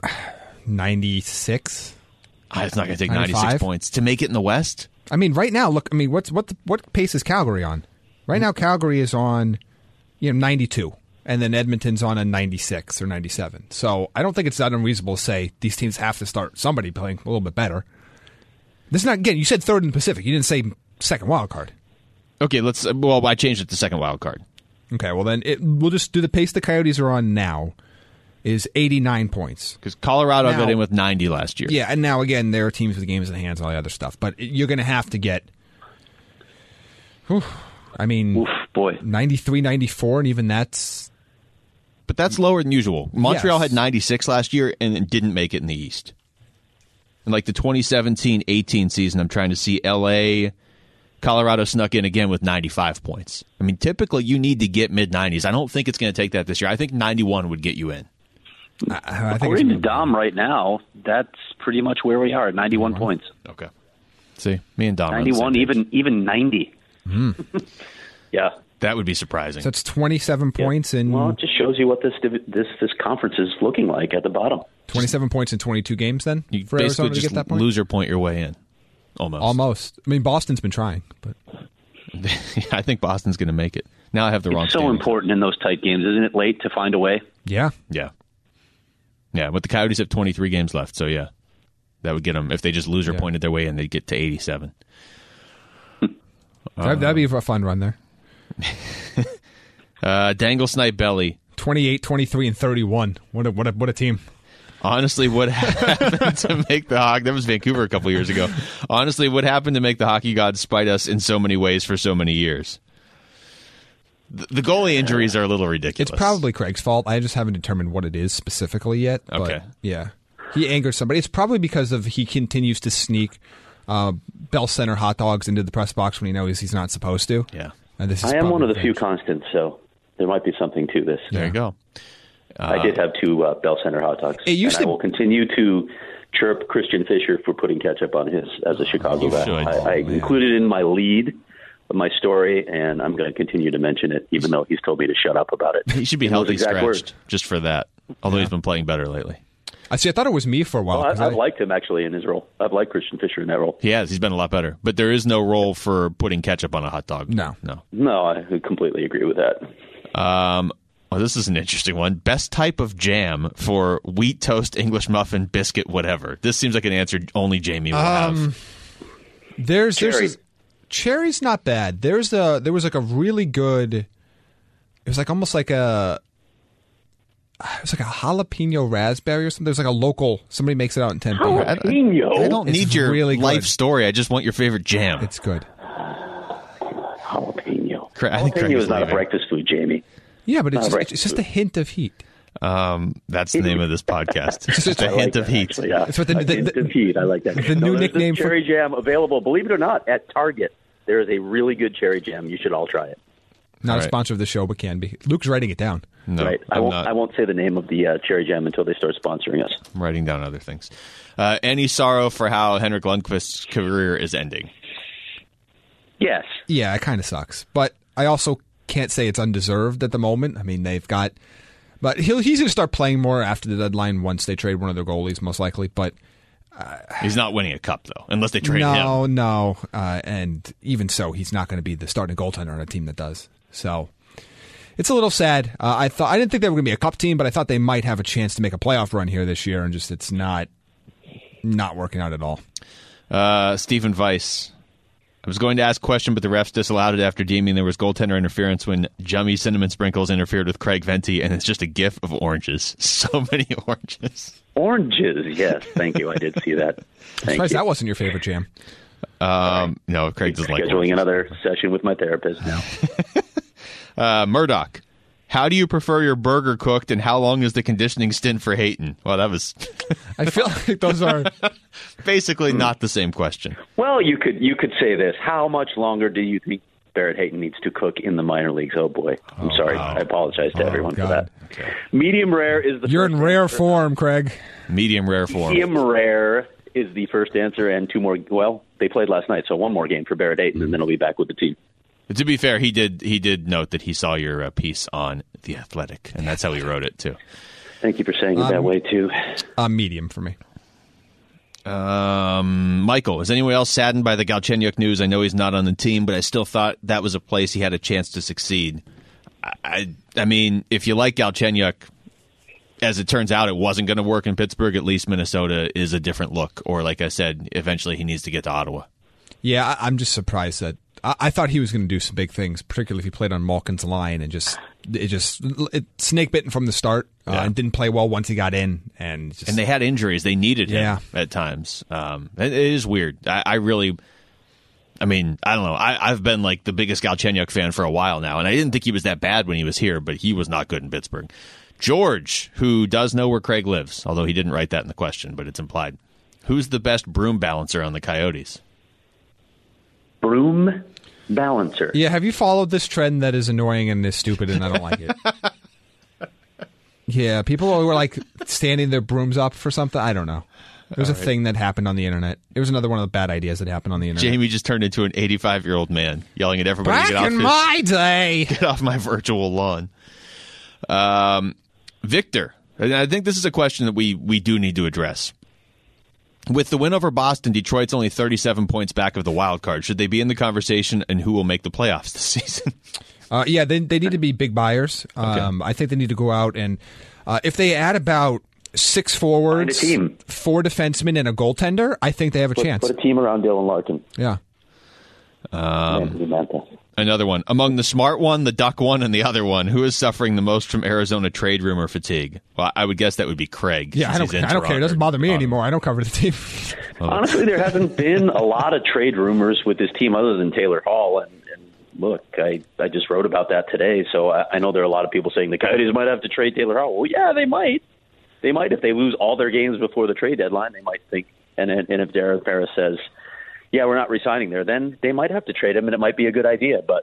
ninety-six. Ah, it's not going to take ninety-five? ninety-six points to make it in the West. I mean, right now, look. I mean, what's what? What pace is Calgary on? Right now, Calgary is on, you know, ninety-two, and then Edmonton's on a ninety-six or ninety-seven. So I don't think it's that unreasonable to say these teams have to start somebody playing a little bit better. This is not again. You said third in the Pacific. You didn't say second wild card. Okay, let's. Well, I changed it to second wild card. Okay, well then it, we'll just do the pace the Coyotes are on now. is eighty-nine points. Because Colorado Now- got in with ninety last year. Yeah, and now again, there are teams with games in the hands, all the other stuff. But you're going to have to get, whew, I mean, Oof, boy. ninety-three, ninety-four, and even that's, But that's lower than usual. Montreal Yes. had ninety-six last year and didn't make it in the East. In like the twenty seventeen eighteen season, I'm trying to see L A, Colorado snuck in again with ninety-five points. I mean, typically you need to get mid-nineties. I don't think it's going to take that this year. I think ninety-one would get you in. I, I think According to it's, Dom right now, that's pretty much where we are at ninety-one points. Okay. See, me and Dom are on the same ninety-one, page. even even ninety. Yeah. That would be surprising. so it's twenty-seven points in Well, it just shows you what this div- this this conference is looking like at the bottom. twenty-seven points in twenty-two games. Then You for basically Arizona to just get that point. loser point your way in. Almost. Almost. I mean, Boston's been trying, but I think Boston's going to make it. Now I have the wrong It's so standings. important in those tight games, isn't it? Late to find a way. yeah, Yeah. Yeah, but the Coyotes have twenty-three games left, so yeah. That would get them, if they just loser Yeah. pointed their way in, they'd get to eighty-seven. that'd, that'd be a fun run there. Uh, Dangle Snipe Belly. twenty-eight, twenty-three, and thirty-one. What a what a what a team. Honestly, what happened to make the hockey? That was Vancouver a couple years ago. Honestly, what happened to make the hockey gods spite us in so many ways for so many years? The, the goalie injuries are a little ridiculous. It's probably Craig's fault. I just haven't determined what it is specifically yet. But Okay. yeah, he angered somebody. It's probably because of he continues to sneak uh, Bell Center hot dogs into the press box when he knows he's not supposed to. Yeah. And this is I am one of the probably few constants, so there might be something to this. There you go. I did have two uh, Bell Center hot dogs. It used and to- I will continue to chirp Christian Fisher for putting ketchup on his as a Chicago You guy. should. I, I included it in my lead of my story, and I'm going to continue to mention it, even though he's told me to shut up about it. He should be In those healthy exact scratched words. just for that, although he's been playing better lately. I see. I thought it was me for a while. Well, 'cause I, I've I- liked him actually in his role. I've liked Christian Fisher in that role. He has. He's been a lot better. But there is no role for putting ketchup on a hot dog. No. No. No, I completely agree with that. Um, well, this is an interesting one. Best type of jam for wheat toast, English muffin, biscuit, whatever. This seems like an answer only Jamie will Um, have. There's Cherry. there's a, cherry's not bad. There's a there was like a really good. It was like almost like a. It was like a jalapeno raspberry or something. There's like a local. Somebody makes it out in Tempe. Jalapeno. I don't It's need your really good. life story. I just want your favorite jam. It's good. Jalapeno. Cra- I think Craig Jalapeno is is not a leaving. breakfast food, Jamie. Yeah, but it's Uh, just, right. it's just a hint of heat. Um, that's the name of this podcast. It's just I a like hint of that, heat. actually, yeah. It's what the- A the- hint the- of heat. I like that. the new there's this nickname for- cherry jam available, believe it or not, at Target. There is a really good cherry jam. You should all try it. Not All a right. sponsor of the show, but can be. Luke's writing it down. No, right? I I'm won't. not. I won't say the name of the uh, cherry jam until they start sponsoring us. I'm writing down other things. Uh, any sorrow for how Henrik Lundqvist's career is ending? Yes. Yeah, it kind of sucks, but I also can't say it's undeserved at the moment. I mean, they've got, but he'll he's going to start playing more after the deadline once they trade one of their goalies, most likely. But He's not winning a cup, though, unless they trade no, him. no, uh, and even so, he's not going to be the starting goaltender on a team that does. So it's a little sad. Uh, I thought I didn't think they were going to be a cup team, but I thought they might have a chance to make a playoff run here this year, and just it's not not working out at all. Uh, Stephen Weiss. I was going to ask a question, but the refs disallowed it after deeming there was goaltender interference when Jummy Cinnamon Sprinkles interfered with Craig Venti, and it's just a gif of oranges. So many oranges. Oranges. Yes. Thank you. I did see that. Thank Surprised you. that wasn't your favorite jam. Um, no, Craig doesn't like Scheduling oranges. another session with my therapist now. Uh, Murdoch. How do you prefer your burger cooked, and how long is the conditioning stint for Hayton? Well, that was I feel like those are. basically not the same question. Well, you could you could say this. How much longer do you think Barrett Hayton needs to cook in the minor leagues? Oh boy, I'm sorry. wow. I apologize to Oh, everyone God. for that. Medium rare is the You're first in rare answer. form, Craig. Medium rare form. Medium rare is the first answer, and two more. Well, they played last night, so one more game for Barrett Hayton, and then he'll be back with the team. To be fair, he did he did note that he saw your uh, piece on The Athletic, and that's how he wrote it, too. Thank you for saying it Um, that way too. Uh, medium for me. Um, Michael, is anyone else saddened by the Galchenyuk news? I know he's not on the team, but I still thought that was a place he had a chance to succeed. I, I, I mean, if you like Galchenyuk, as it turns out, it wasn't going to work in Pittsburgh. At least Minnesota is a different look. Or, like I said, eventually he needs to get to Ottawa. Yeah, I, I'm just surprised that I, I thought he was going to do some big things, particularly if he played on Malkin's line and just it just it snake bitten from the start uh, Yeah. and didn't play well once he got in. And just, And they had injuries. They needed him Yeah. at times. Um, it, it is weird. I, I really, I mean, I don't know. I, I've been like the biggest Galchenyuk fan for a while now, and I didn't think he was that bad when he was here, but he was not good in Pittsburgh. George, who does know where Craig lives, although he didn't write that in the question, but it's implied. Who's the best broom balancer on the Coyotes? Broom balancer. yeah, have you followed this trend that is annoying and is stupid and I don't like it? Yeah, people were like standing their brooms up for something. I don't know. It was a thing that happened on the internet. It was another one of the bad ideas that happened on the internet. Jamie just turned into an eighty-five-year-old man, yelling at everybody Back to get off, in his, my day. get off my virtual lawn. Um, Victor, and I think this is a question that we, we do need to address. With the win over Boston, Detroit's only thirty-seven points back of the wild card. Should they be in the conversation, and who will make the playoffs this season? Uh, yeah, they they need to be big buyers. Um, I think they need to go out and uh, if they add about six forwards, Find a team. four defensemen, and a goaltender, I think they have a Put, chance. put a team around Dylan Larkin. Yeah. Anthony Mantha. Another one. Among the smart one, the duck one, and the other one, who is suffering the most from Arizona trade rumor fatigue? Well, I would guess that would be Craig. Yeah, I since don't, he's in I don't care. It Toronto. doesn't bother me Um, anymore. I don't cover the team. Honestly, there hasn't been a lot of trade rumors with this team other than Taylor Hall. And, and look, I, I just wrote about that today, so I, I know there are a lot of people saying the Coyotes might have to trade Taylor Hall. Well, yeah, they might. They might if they lose all their games before the trade deadline. They might think, and and if Darren Ferris says, "Yeah, we're not re-signing there," then they might have to trade him, and it might be a good idea. But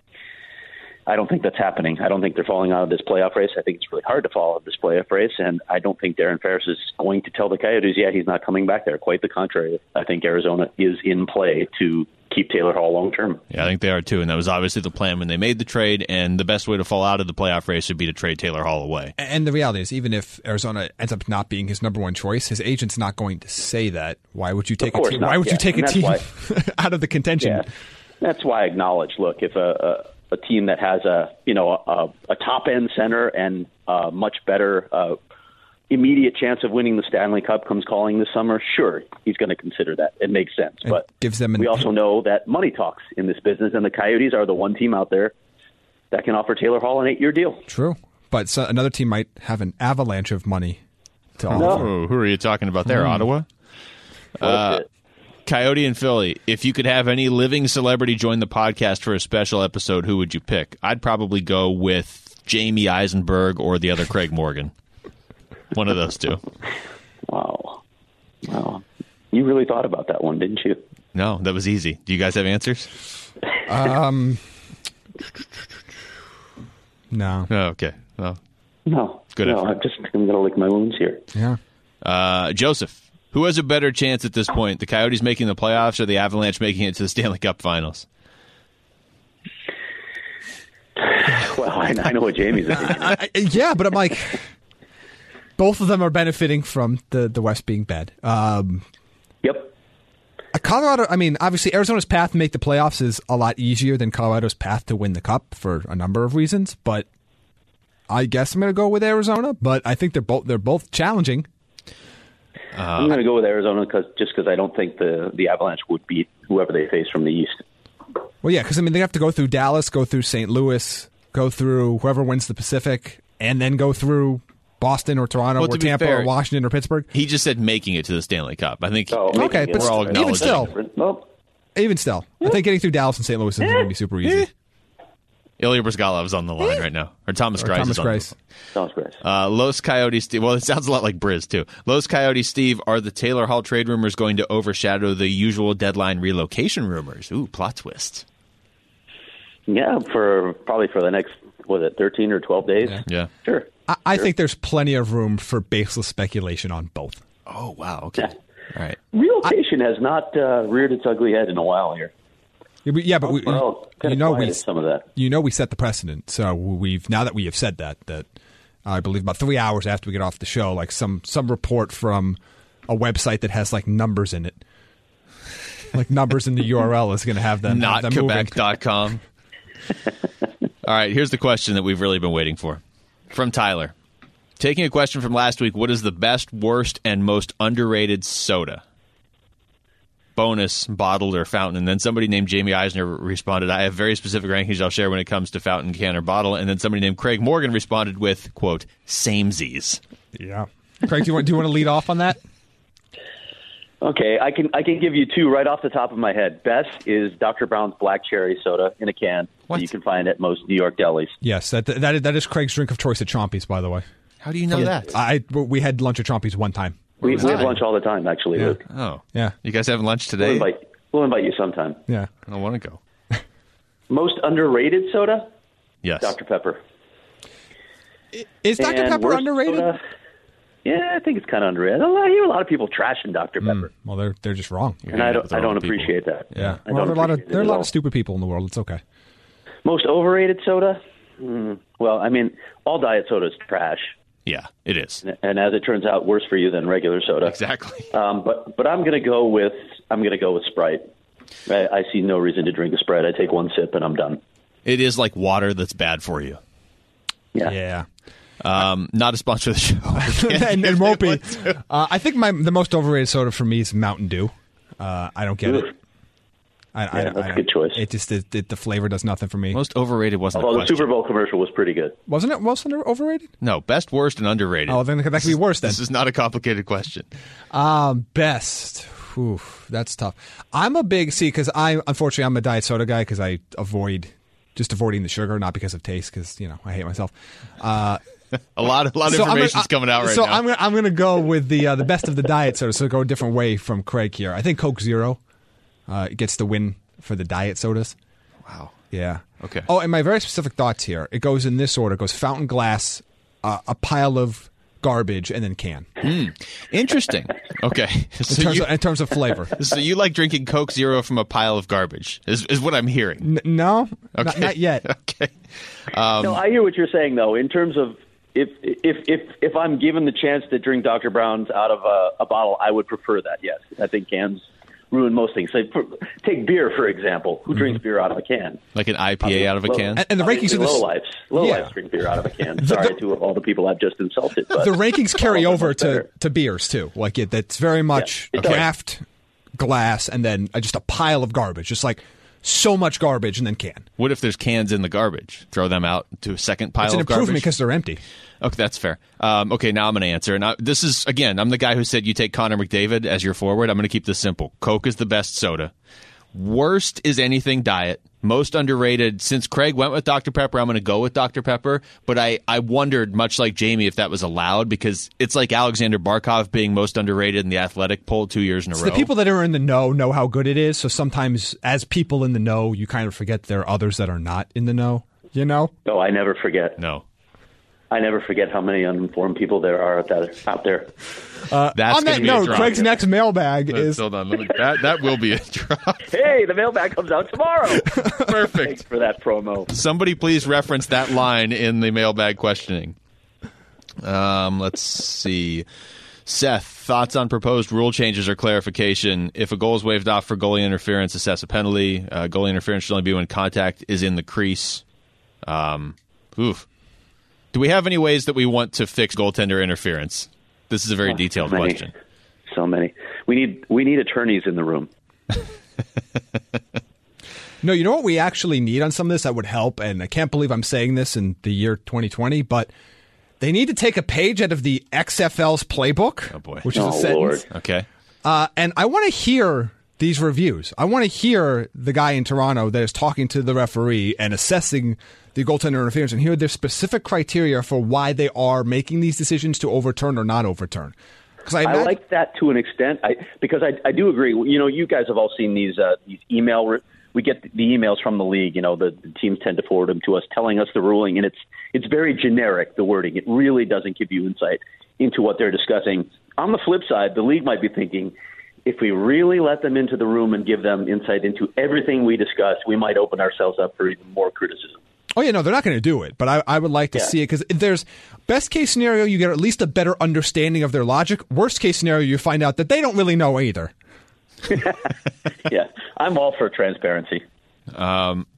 I don't think that's happening. I don't think they're falling out of this playoff race. I think it's really hard to fall out of this playoff race, and I don't think Darren Ferris is going to tell the Coyotes, "Yeah, he's not coming back there." Quite the contrary. I think Arizona is in play to keep Taylor Hall long term. Yeah, I think they are too, and that was obviously the plan when they made the trade. And the best way to fall out of the playoff race would be to trade Taylor Hall away. And the reality is, even if Arizona ends up not being his number one choice, his agent's not going to say that. Why would you take a course team? not, Why would yeah. you take And a that's team why- out of the contention? Yeah, that's why I acknowledge. Look, if a, a, a team that has a you know a, a top end center and a much better uh, immediate chance of winning the Stanley Cup comes calling this summer, sure, he's going to consider that. It makes sense, It but gives them an- we also know that money talks in this business, and the Coyotes are the one team out there that can offer Taylor Hall an eight year deal. True, but so another team might have an avalanche of money to offer. Oh, who are you talking about there? Ottawa? Uh, Coyote and Philly. If you could have any living celebrity join the podcast for a special episode, who would you pick? I'd probably go with Jamie Eisenberg or the other Craig Morgan. One of those two. wow, wow, you really thought about that one, didn't you? No, that was easy. Do you guys have answers? Um, no. Oh, okay. Well, No, Good no, effort. I'm just I'm going to lick my wounds here. Yeah. uh, Joseph, who has a better chance at this point? The Coyotes making the playoffs or the Avalanche making it to the Stanley Cup Finals? Well, I, I know what Jamie's opinion is. I, I- yeah, but I'm like, both of them are benefiting from the, the West being bad. Um, Yep. Colorado, I mean, obviously Arizona's path to make the playoffs is a lot easier than Colorado's path to win the Cup for a number of reasons, but I guess I'm going to go with Arizona, but I think they're both they're both challenging. I'm going to go with Arizona cause, just because I don't think the, the Avalanche would beat whoever they face from the East. Well, yeah, because I mean they have to go through Dallas, go through Saint Louis, go through whoever wins the Pacific, and then go through Boston or Toronto Well, to or be Tampa fair, or Washington or Pittsburgh. He just said making it to the Stanley Cup. I think So Okay, making but it- we're all even acknowledging still, Well, even still, I think getting through Dallas and Saint Louis is going to be super easy. Ilya Brizgalov's on the line right now. Or Thomas Or Greiss Thomas is on Greiss. the sounds great. Uh, Los Coyotes, Steve. Well, it sounds a lot like Briz, too. Los Coyotes, Steve, are the Taylor Hall trade rumors going to overshadow the usual deadline relocation rumors? Ooh, plot twist. Yeah, for probably for the next, was it thirteen or twelve days? Yeah. Yeah. Sure. I, I think there's plenty of room for baseless speculation on both. Oh, wow. Okay. Yeah. All right. Relocation has not uh, reared its ugly head in a while here. Yeah, but, yeah, but we, Well, kind you of know quiet we at some of that. you know we set the precedent. So we've now that we have said that that I believe about three hours after we get off the show, like some some report from a website that has like numbers in it, like numbers in the U R L is going to have them have Not them moving. Quebec dot com. All right, here's the question that we've really been waiting for. From Tyler. Taking a question from last week, what is the best, worst, and most underrated soda? bonus, bottled or fountain. And then somebody named Jamie Eisner responded, I have very specific rankings I'll share when it comes to fountain, can, or bottle. And then somebody named Craig Morgan responded with, quote, samesies. Yeah. Craig, do you want, do you want to lead off on that? Okay, I can I can give you two right off the top of my head. Best is Doctor Brown's Black Cherry Soda in a can What? that you can find at most New York delis. Yes, that that is, that is Craig's drink of choice at Chompy's, by the way. How do you know that? I we had lunch at Chompy's one time. We, was we have that? lunch all the time, actually, Yeah. Luke. Oh. Yeah. You guys having lunch We'll today? invite, we'll invite you sometime. Yeah. I don't want to go. Most underrated soda? Yes. Doctor Pepper. Is Doctor And Pepper worst underrated? soda? Yeah, I think it's kind of underrated. I hear a lot of people trashing Doctor Pepper, Well, they're they're just wrong. You're and gonna I end up don't with I the don't wrong people. appreciate that. Yeah. I Well, don't there are a lot of appreciate it there are a at lot all. of stupid people in the world. It's okay. Most overrated soda? Mm, well, I mean, all diet soda is trash, Yeah, it is. and as it turns out, worse for you than regular soda. Exactly. Um, but but I'm going to go with I'm going to go with Sprite. I, I see no reason to drink a Sprite. I take one sip and I'm done. It is like water that's bad for you. Yeah. Yeah. Um, not a sponsor of the show. and it won't be. Uh, I think my the most overrated soda for me is Mountain Dew. Uh, I don't get Oof. it. I, Yeah, I, that's I, a good choice. It just it, it, the flavor does nothing for me. Most overrated wasn't Although a the question. Super Bowl commercial was pretty good. Wasn't it? Wasn't it overrated? No, best, worst, and underrated. Oh, then that could be worse. Then This is not a complicated question. um, best. Whew, that's tough. I'm a big see because I unfortunately I'm a diet soda guy because I avoid just avoiding the sugar, not because of taste, because you know I hate myself. Uh, A lot, a lot of So I'm gonna- information's coming out right so now. I'm gonna I'm gonna go with the uh, the best of the diet soda. So go a different way from Craig here. I think Coke Zero uh, gets the win for the diet sodas. Wow. Yeah. Okay. Oh, and my very specific thoughts here. It goes in this order. It goes fountain glass, uh, a pile of garbage, and then can. Interesting. Okay. In, So terms, you, of, in terms of flavor. so you like drinking Coke Zero from a pile of garbage, is, is what I'm hearing. N- no, not, Okay. not yet. Okay. Um, no, I hear what you're saying though. In terms of if if if if I'm given the chance to drink Doctor Brown's out of a, a bottle, I would prefer that. Yes, I think cans ruin most things. Like, for, take beer for example. Who drinks beer out of a can? Like an I P A out of a Low- can? And, and the rankings Obviously of this, low lives, low Yeah. lives drink beer out of a can. Sorry to all the people I've just insulted. But the rankings carry all of them over are to, better. to beers too. Like it, that's very much Yeah, it does. draft, glass, and then uh, just a pile of garbage. Just like so much garbage, and then can. What if there's cans in the garbage? Throw them out to a second pile It's an of improvement garbage? because they're empty. Okay, that's fair. Um, okay, now I'm going to answer. And I, this is, again, I'm the guy who said you take Connor McDavid as your forward. I'm going to keep this simple. Coke is the best soda. Worst is anything diet. Most underrated. Since Craig went with Doctor Pepper, I'm going to go with Doctor Pepper. But I, I wondered, much like Jamie, if that was allowed because it's like Alexander Barkov being most underrated in the Athletic poll two years in a So row. the people that are in the know know how good it is. So sometimes, as people in the know, you kind of forget there are others that are not in the know. You know? No, I never forget. no. I never forget how many uninformed people there are out there. Out there. That's On gonna that be a note, drop. Craig's next mailbag Let's- is Hold on. Let me, that, that will be a drop. Hey, the mailbag comes out tomorrow. Perfect. Thanks for that promo. Somebody please reference that line in the mailbag questioning. Um, let's see. Seth, thoughts on proposed rule changes or clarification? If a goal is waved off for goalie interference, assess a penalty. Uh, goalie interference should only be when contact is in the crease. Um, oof. Do we have any ways that we want to fix goaltender interference? This is a very Oh, detailed so many. question. So many. We need we need attorneys in the room. no. You know what we actually need on some of this that would help, and I can't believe I'm saying this in the year twenty twenty, but they need to take a page out of the X F L's playbook, Oh, boy. which is Oh, a sentence. Lord. Okay. Uh, and I want to hear these reviews. I want to hear the guy in Toronto that is talking to the referee and assessing the goaltender interference and hear their specific criteria for why they are making these decisions to overturn or not overturn. Because I, I imagine- like that to an extent, I, because I, I do agree. You know, you guys have all seen these uh, these email. Re- we get the emails from the league. You know, the, the teams tend to forward them to us, telling us the ruling, and it's it's very generic. The wording, it really doesn't give you insight into what they're discussing. On the flip side, the league might be thinking, if we really let them into the room and give them insight into everything we discuss, we might open ourselves up for even more criticism. Oh, yeah, no, they're not going to do it, but I, I would like to Yeah. see it because there's best case scenario, you get at least a better understanding of their logic. Worst case scenario, you find out that they don't really know either. Yeah, I'm all for transparency.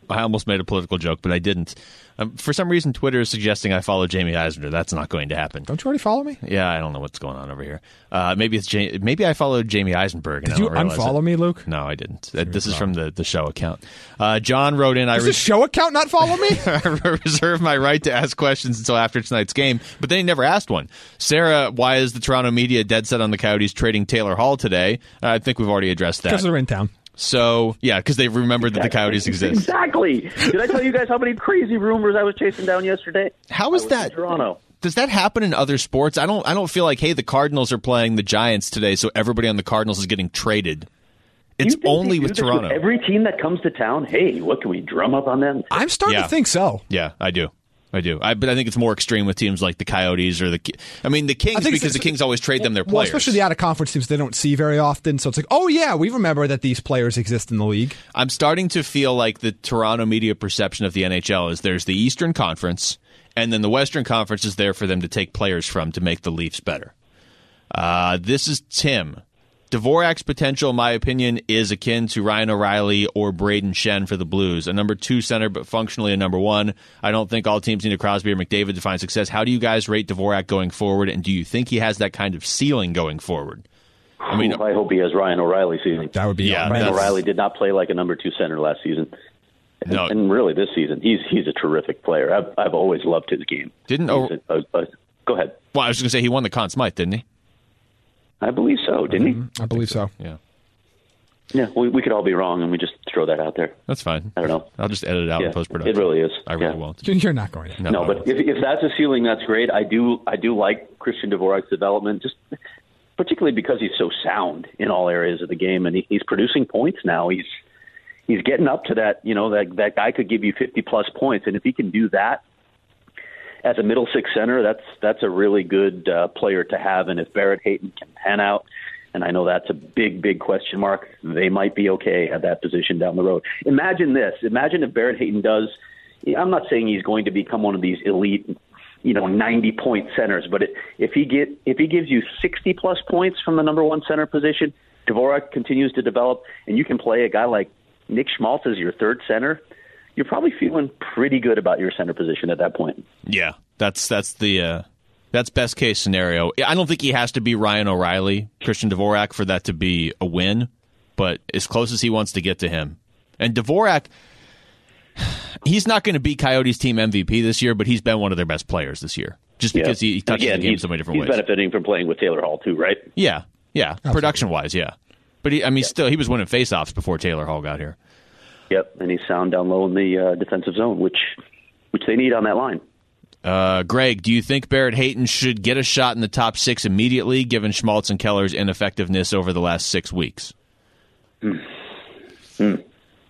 I almost made a political joke, but I didn't. Um, for some reason, Twitter is suggesting I follow Jamie Eisner. That's not going to happen. Don't you already follow me? Yeah, I don't know what's going on over here. Uh, maybe it's ja- maybe I followed Jamie Eisenberg. And Did I you don't realize unfollow it. me, Luke? No, I didn't. Uh, this is from the, the show account. Uh, John wrote in, Does I the show account not follow me? I reserve my right to ask questions until after tonight's game, but then he never asked one. Sarah, why is the Toronto media dead set on the Coyotes trading Taylor Hall today? Uh, I think we've already addressed that. Because they're in town. So, yeah, because they've remembered that the Coyotes exist. Exactly. Did I tell you guys how many crazy rumors I was chasing down yesterday? How is I was that? in Toronto. Does that happen in other sports? I don't I don't feel like, hey, the Cardinals are playing the Giants today, so everybody on the Cardinals is getting traded. It's You think only they with do this Toronto. every team that comes to town, hey, what can we drum up on them? I'm starting Yeah. to think so. Yeah, I do. I do. I, but I think it's more extreme with teams like the Coyotes or the Ki- I mean, the Kings, I think because it's- the Kings always trade them their Well, players. especially the out-of-conference teams they don't see very often. So it's like, oh, yeah, we remember that these players exist in the league. I'm starting to feel like the Toronto media perception of the N H L is there's the Eastern Conference, and then the Western Conference is there for them to take players from to make the Leafs better. Uh, this is Tim. Dvorak's potential, in my opinion, is akin to Ryan O'Reilly or Braden Shen for the Blues. A number two center, but functionally a number one. I don't think all teams need a Crosby or McDavid to find success. How do you guys rate Dvorak going forward, and do you think he has that kind of ceiling going forward? I mean, I hope he has Ryan O'Reilly season. That would be Yeah, Ryan that's- O'Reilly did not play like a number two center last season. And, No. and really this season, he's he's a terrific player. I've, I've always loved his game. Didn't He's O- a, a, a, Go ahead. well, I was going to say he won the Conn Smythe, didn't he? I believe so, didn't I believe so. Yeah. he? Yeah, we, we could all be wrong, and we just throw that out there. That's fine. I don't know. I'll just edit it out Yeah, in post-production. it really is. I really Yeah. won't. You're not going to. No, No, I but won't. if, if that's a ceiling, that's great. I do I do like Christian Dvorak's development, just particularly because he's so sound in all areas of the game, and he, he's producing points now. He's he's getting up to that. You know, that that guy could give you fifty plus points, and if he can do that as a middle six center, that's that's a really good uh, player to have. And if Barrett Hayton can pan out, and I know that's a big, big question mark, they might be okay at that position down the road. Imagine this. Imagine if Barrett Hayton does, I'm not saying he's going to become one of these elite, you know, ninety-point centers, but it, if he get if he gives you sixty-plus points from the number one center position, Dvorak continues to develop, and you can play a guy like Nick Schmaltz as your third center, you're probably feeling pretty good about your center position at that point. Yeah, that's that's the uh, that's best case scenario. I don't think he has to be Ryan O'Reilly, Christian Dvorak, for that to be a win, but as close as he wants to get to him. And Dvorak, he's not going to be Coyotes team M V P this year, but he's been one of their best players this year, just because he, he touches Again, the game he's, so many different he's ways. benefiting from playing with Taylor Hall too, right? Yeah, yeah, production wise, yeah. But he, I mean, still, he was winning faceoffs before Taylor Hall got here. Yep, and he's sound down low in the uh, defensive zone, which which they need on that line. Uh, Greg, do you think Barrett Hayton should get a shot in the top six immediately, given Schmaltz and Keller's ineffectiveness over the last six weeks? Mm. Mm.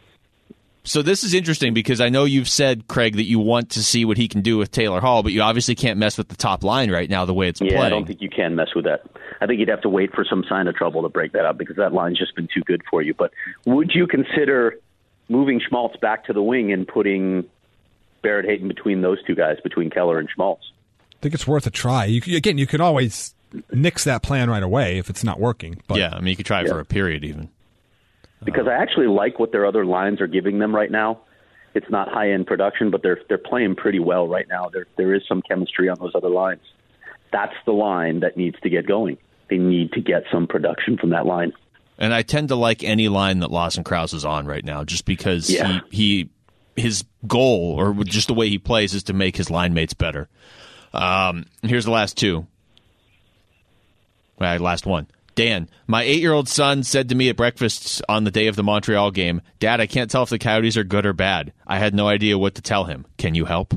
So this is interesting because I know you've said, Craig, that you want to see what he can do with Taylor Hall, but you obviously can't mess with the top line right now the way it's Yeah, playing. I don't think you can mess with that. I think you'd have to wait for some sign of trouble to break that up because that line's just been too good for you. But would you consider moving Schmaltz back to the wing and putting Barrett Hayton between those two guys, between Keller and Schmaltz? I think it's worth a try. You, again, you can always nix that plan right away if it's not working. But yeah, I mean, you could try it Yeah. for a period even. Because I actually like what their other lines are giving them right now. It's not high-end production, but they're they're playing pretty well right now. There there is some chemistry on those other lines. That's the line that needs to get going. They need to get some production from that line. And I tend to like any line that Lawson Krause is on right now, just because Yeah. he, he his goal, or just the way he plays, is to make his line mates better. Um, here's the last two. All right, last one. Dan, my eight-year-old son said to me at breakfast on the day of the Montreal game, "Dad, I can't tell if the Coyotes are good or bad. I had no idea what to tell him. Can you help?"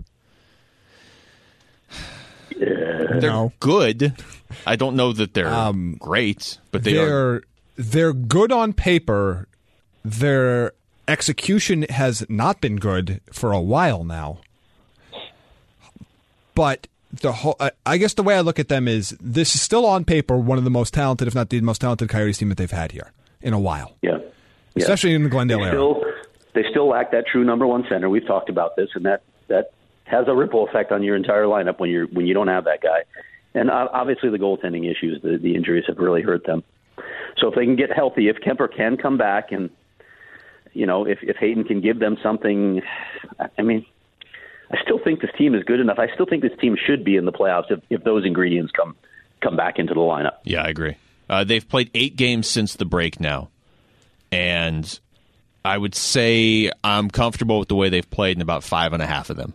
They're No. good. I don't know that they're Um, great, but they are. they're they're good on paper. Their execution has not been good for a while now. But the whole, I- I guess the way I look at them is this is still on paper one of the most talented, if not the most talented Coyotes team that they've had here in a while, Yeah. Yeah. especially in the Glendale they era. still, they still lack that true number one center. We've talked about this, and that, that has a ripple effect on your entire lineup when you're when you don't have that guy. And uh, obviously the goaltending issues, the, the injuries have really hurt them. So if they can get healthy, if Kemper can come back and you know, if, if Hayden can give them something, I mean, I still think this team is good enough. I still think this team should be in the playoffs if, if those ingredients come come back into the lineup. Yeah, I agree. Uh, they've played eight games since the break now, and I would say I'm comfortable with the way they've played in about five and a half of them.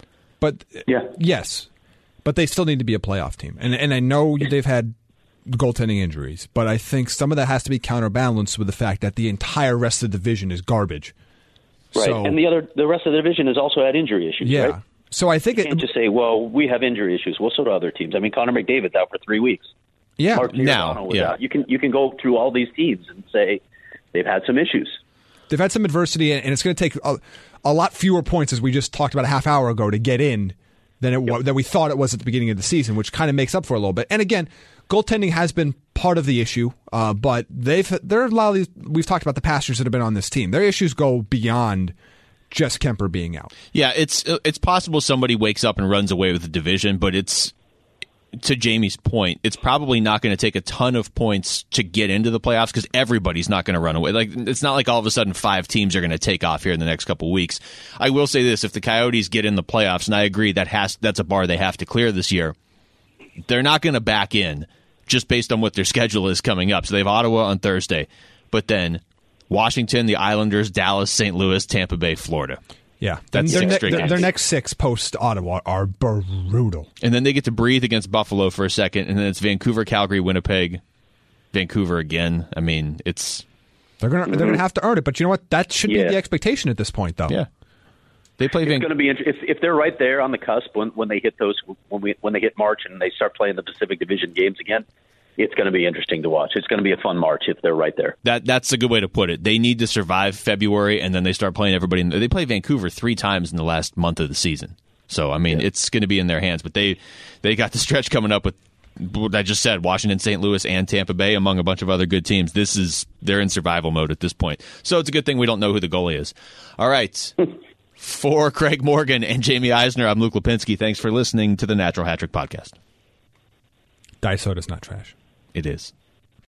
But yeah, yes, but they still need to be a playoff team. And and I know they've had goaltending injuries, but I think some of that has to be counterbalanced with the fact that the entire rest of the division is garbage. Right, So, and the other, the rest of the division has also had injury issues. yeah. Right? So I think You it, can't just say, "Well, we have injury issues." Well, so do other teams. I mean, Connor McDavid's out for three weeks. yeah, Mark now, Giordano was yeah. out. You can you can go through all these teams and say they've had some issues. they've had some adversity, and it's going to take a, a lot fewer points, as we just talked about a half hour ago, to get in than it wa- than we thought it was at the beginning of the season, which kind of makes up for a little bit. And again, goaltending has been part of the issue, uh, but they've there are a lot of these. We've talked about the pastors that have been on this team. Their issues go beyond just Kemper being out. Yeah, it's it's possible somebody wakes up and runs away with the division, but it's, to Jamie's point, it's probably not going to take a ton of points to get into the playoffs because everybody's not going to run away. Like, it's not like all of a sudden five teams are going to take off here in the next couple of weeks. I will say this: if the Coyotes get in the playoffs, and I agree that has that's a bar they have to clear this year, they're not going to back in just based on what their schedule is coming up. So they have Ottawa on Thursday, but then Washington, the Islanders, Dallas, Saint Louis, Tampa Bay, Florida. Yeah, That's their, six ne- straight their, games. their next six post Ottawa are brutal. And then they get to breathe against Buffalo for a second, and then it's Vancouver, Calgary, Winnipeg, Vancouver again. I mean, it's... They're gonna they're gonna have to earn it, but you know what? That should Yeah. be the expectation at this point, though. Yeah. They play It's Van- going to be inter- if if they're right there on the cusp when, when they hit those when we when they hit March and they start playing the Pacific Division games again. It's going to be interesting to watch. It's going to be a fun March if they're right there. That That's a good way to put it. They need to survive February, and then they start playing everybody. In, they play Vancouver three times in the last month of the season. So, I mean, Yeah. it's going to be in their hands. But they, they got the stretch coming up with, what I just said, Washington, Saint Louis, and Tampa Bay, among a bunch of other good teams. This is They're in survival mode at this point. So it's a good thing we don't know who the goalie is. All right. For Craig Morgan and Jamie Eisner, I'm Luke Lipinski. Thanks for listening to the Natural Hat Trick Podcast. Diet soda's not trash. It is.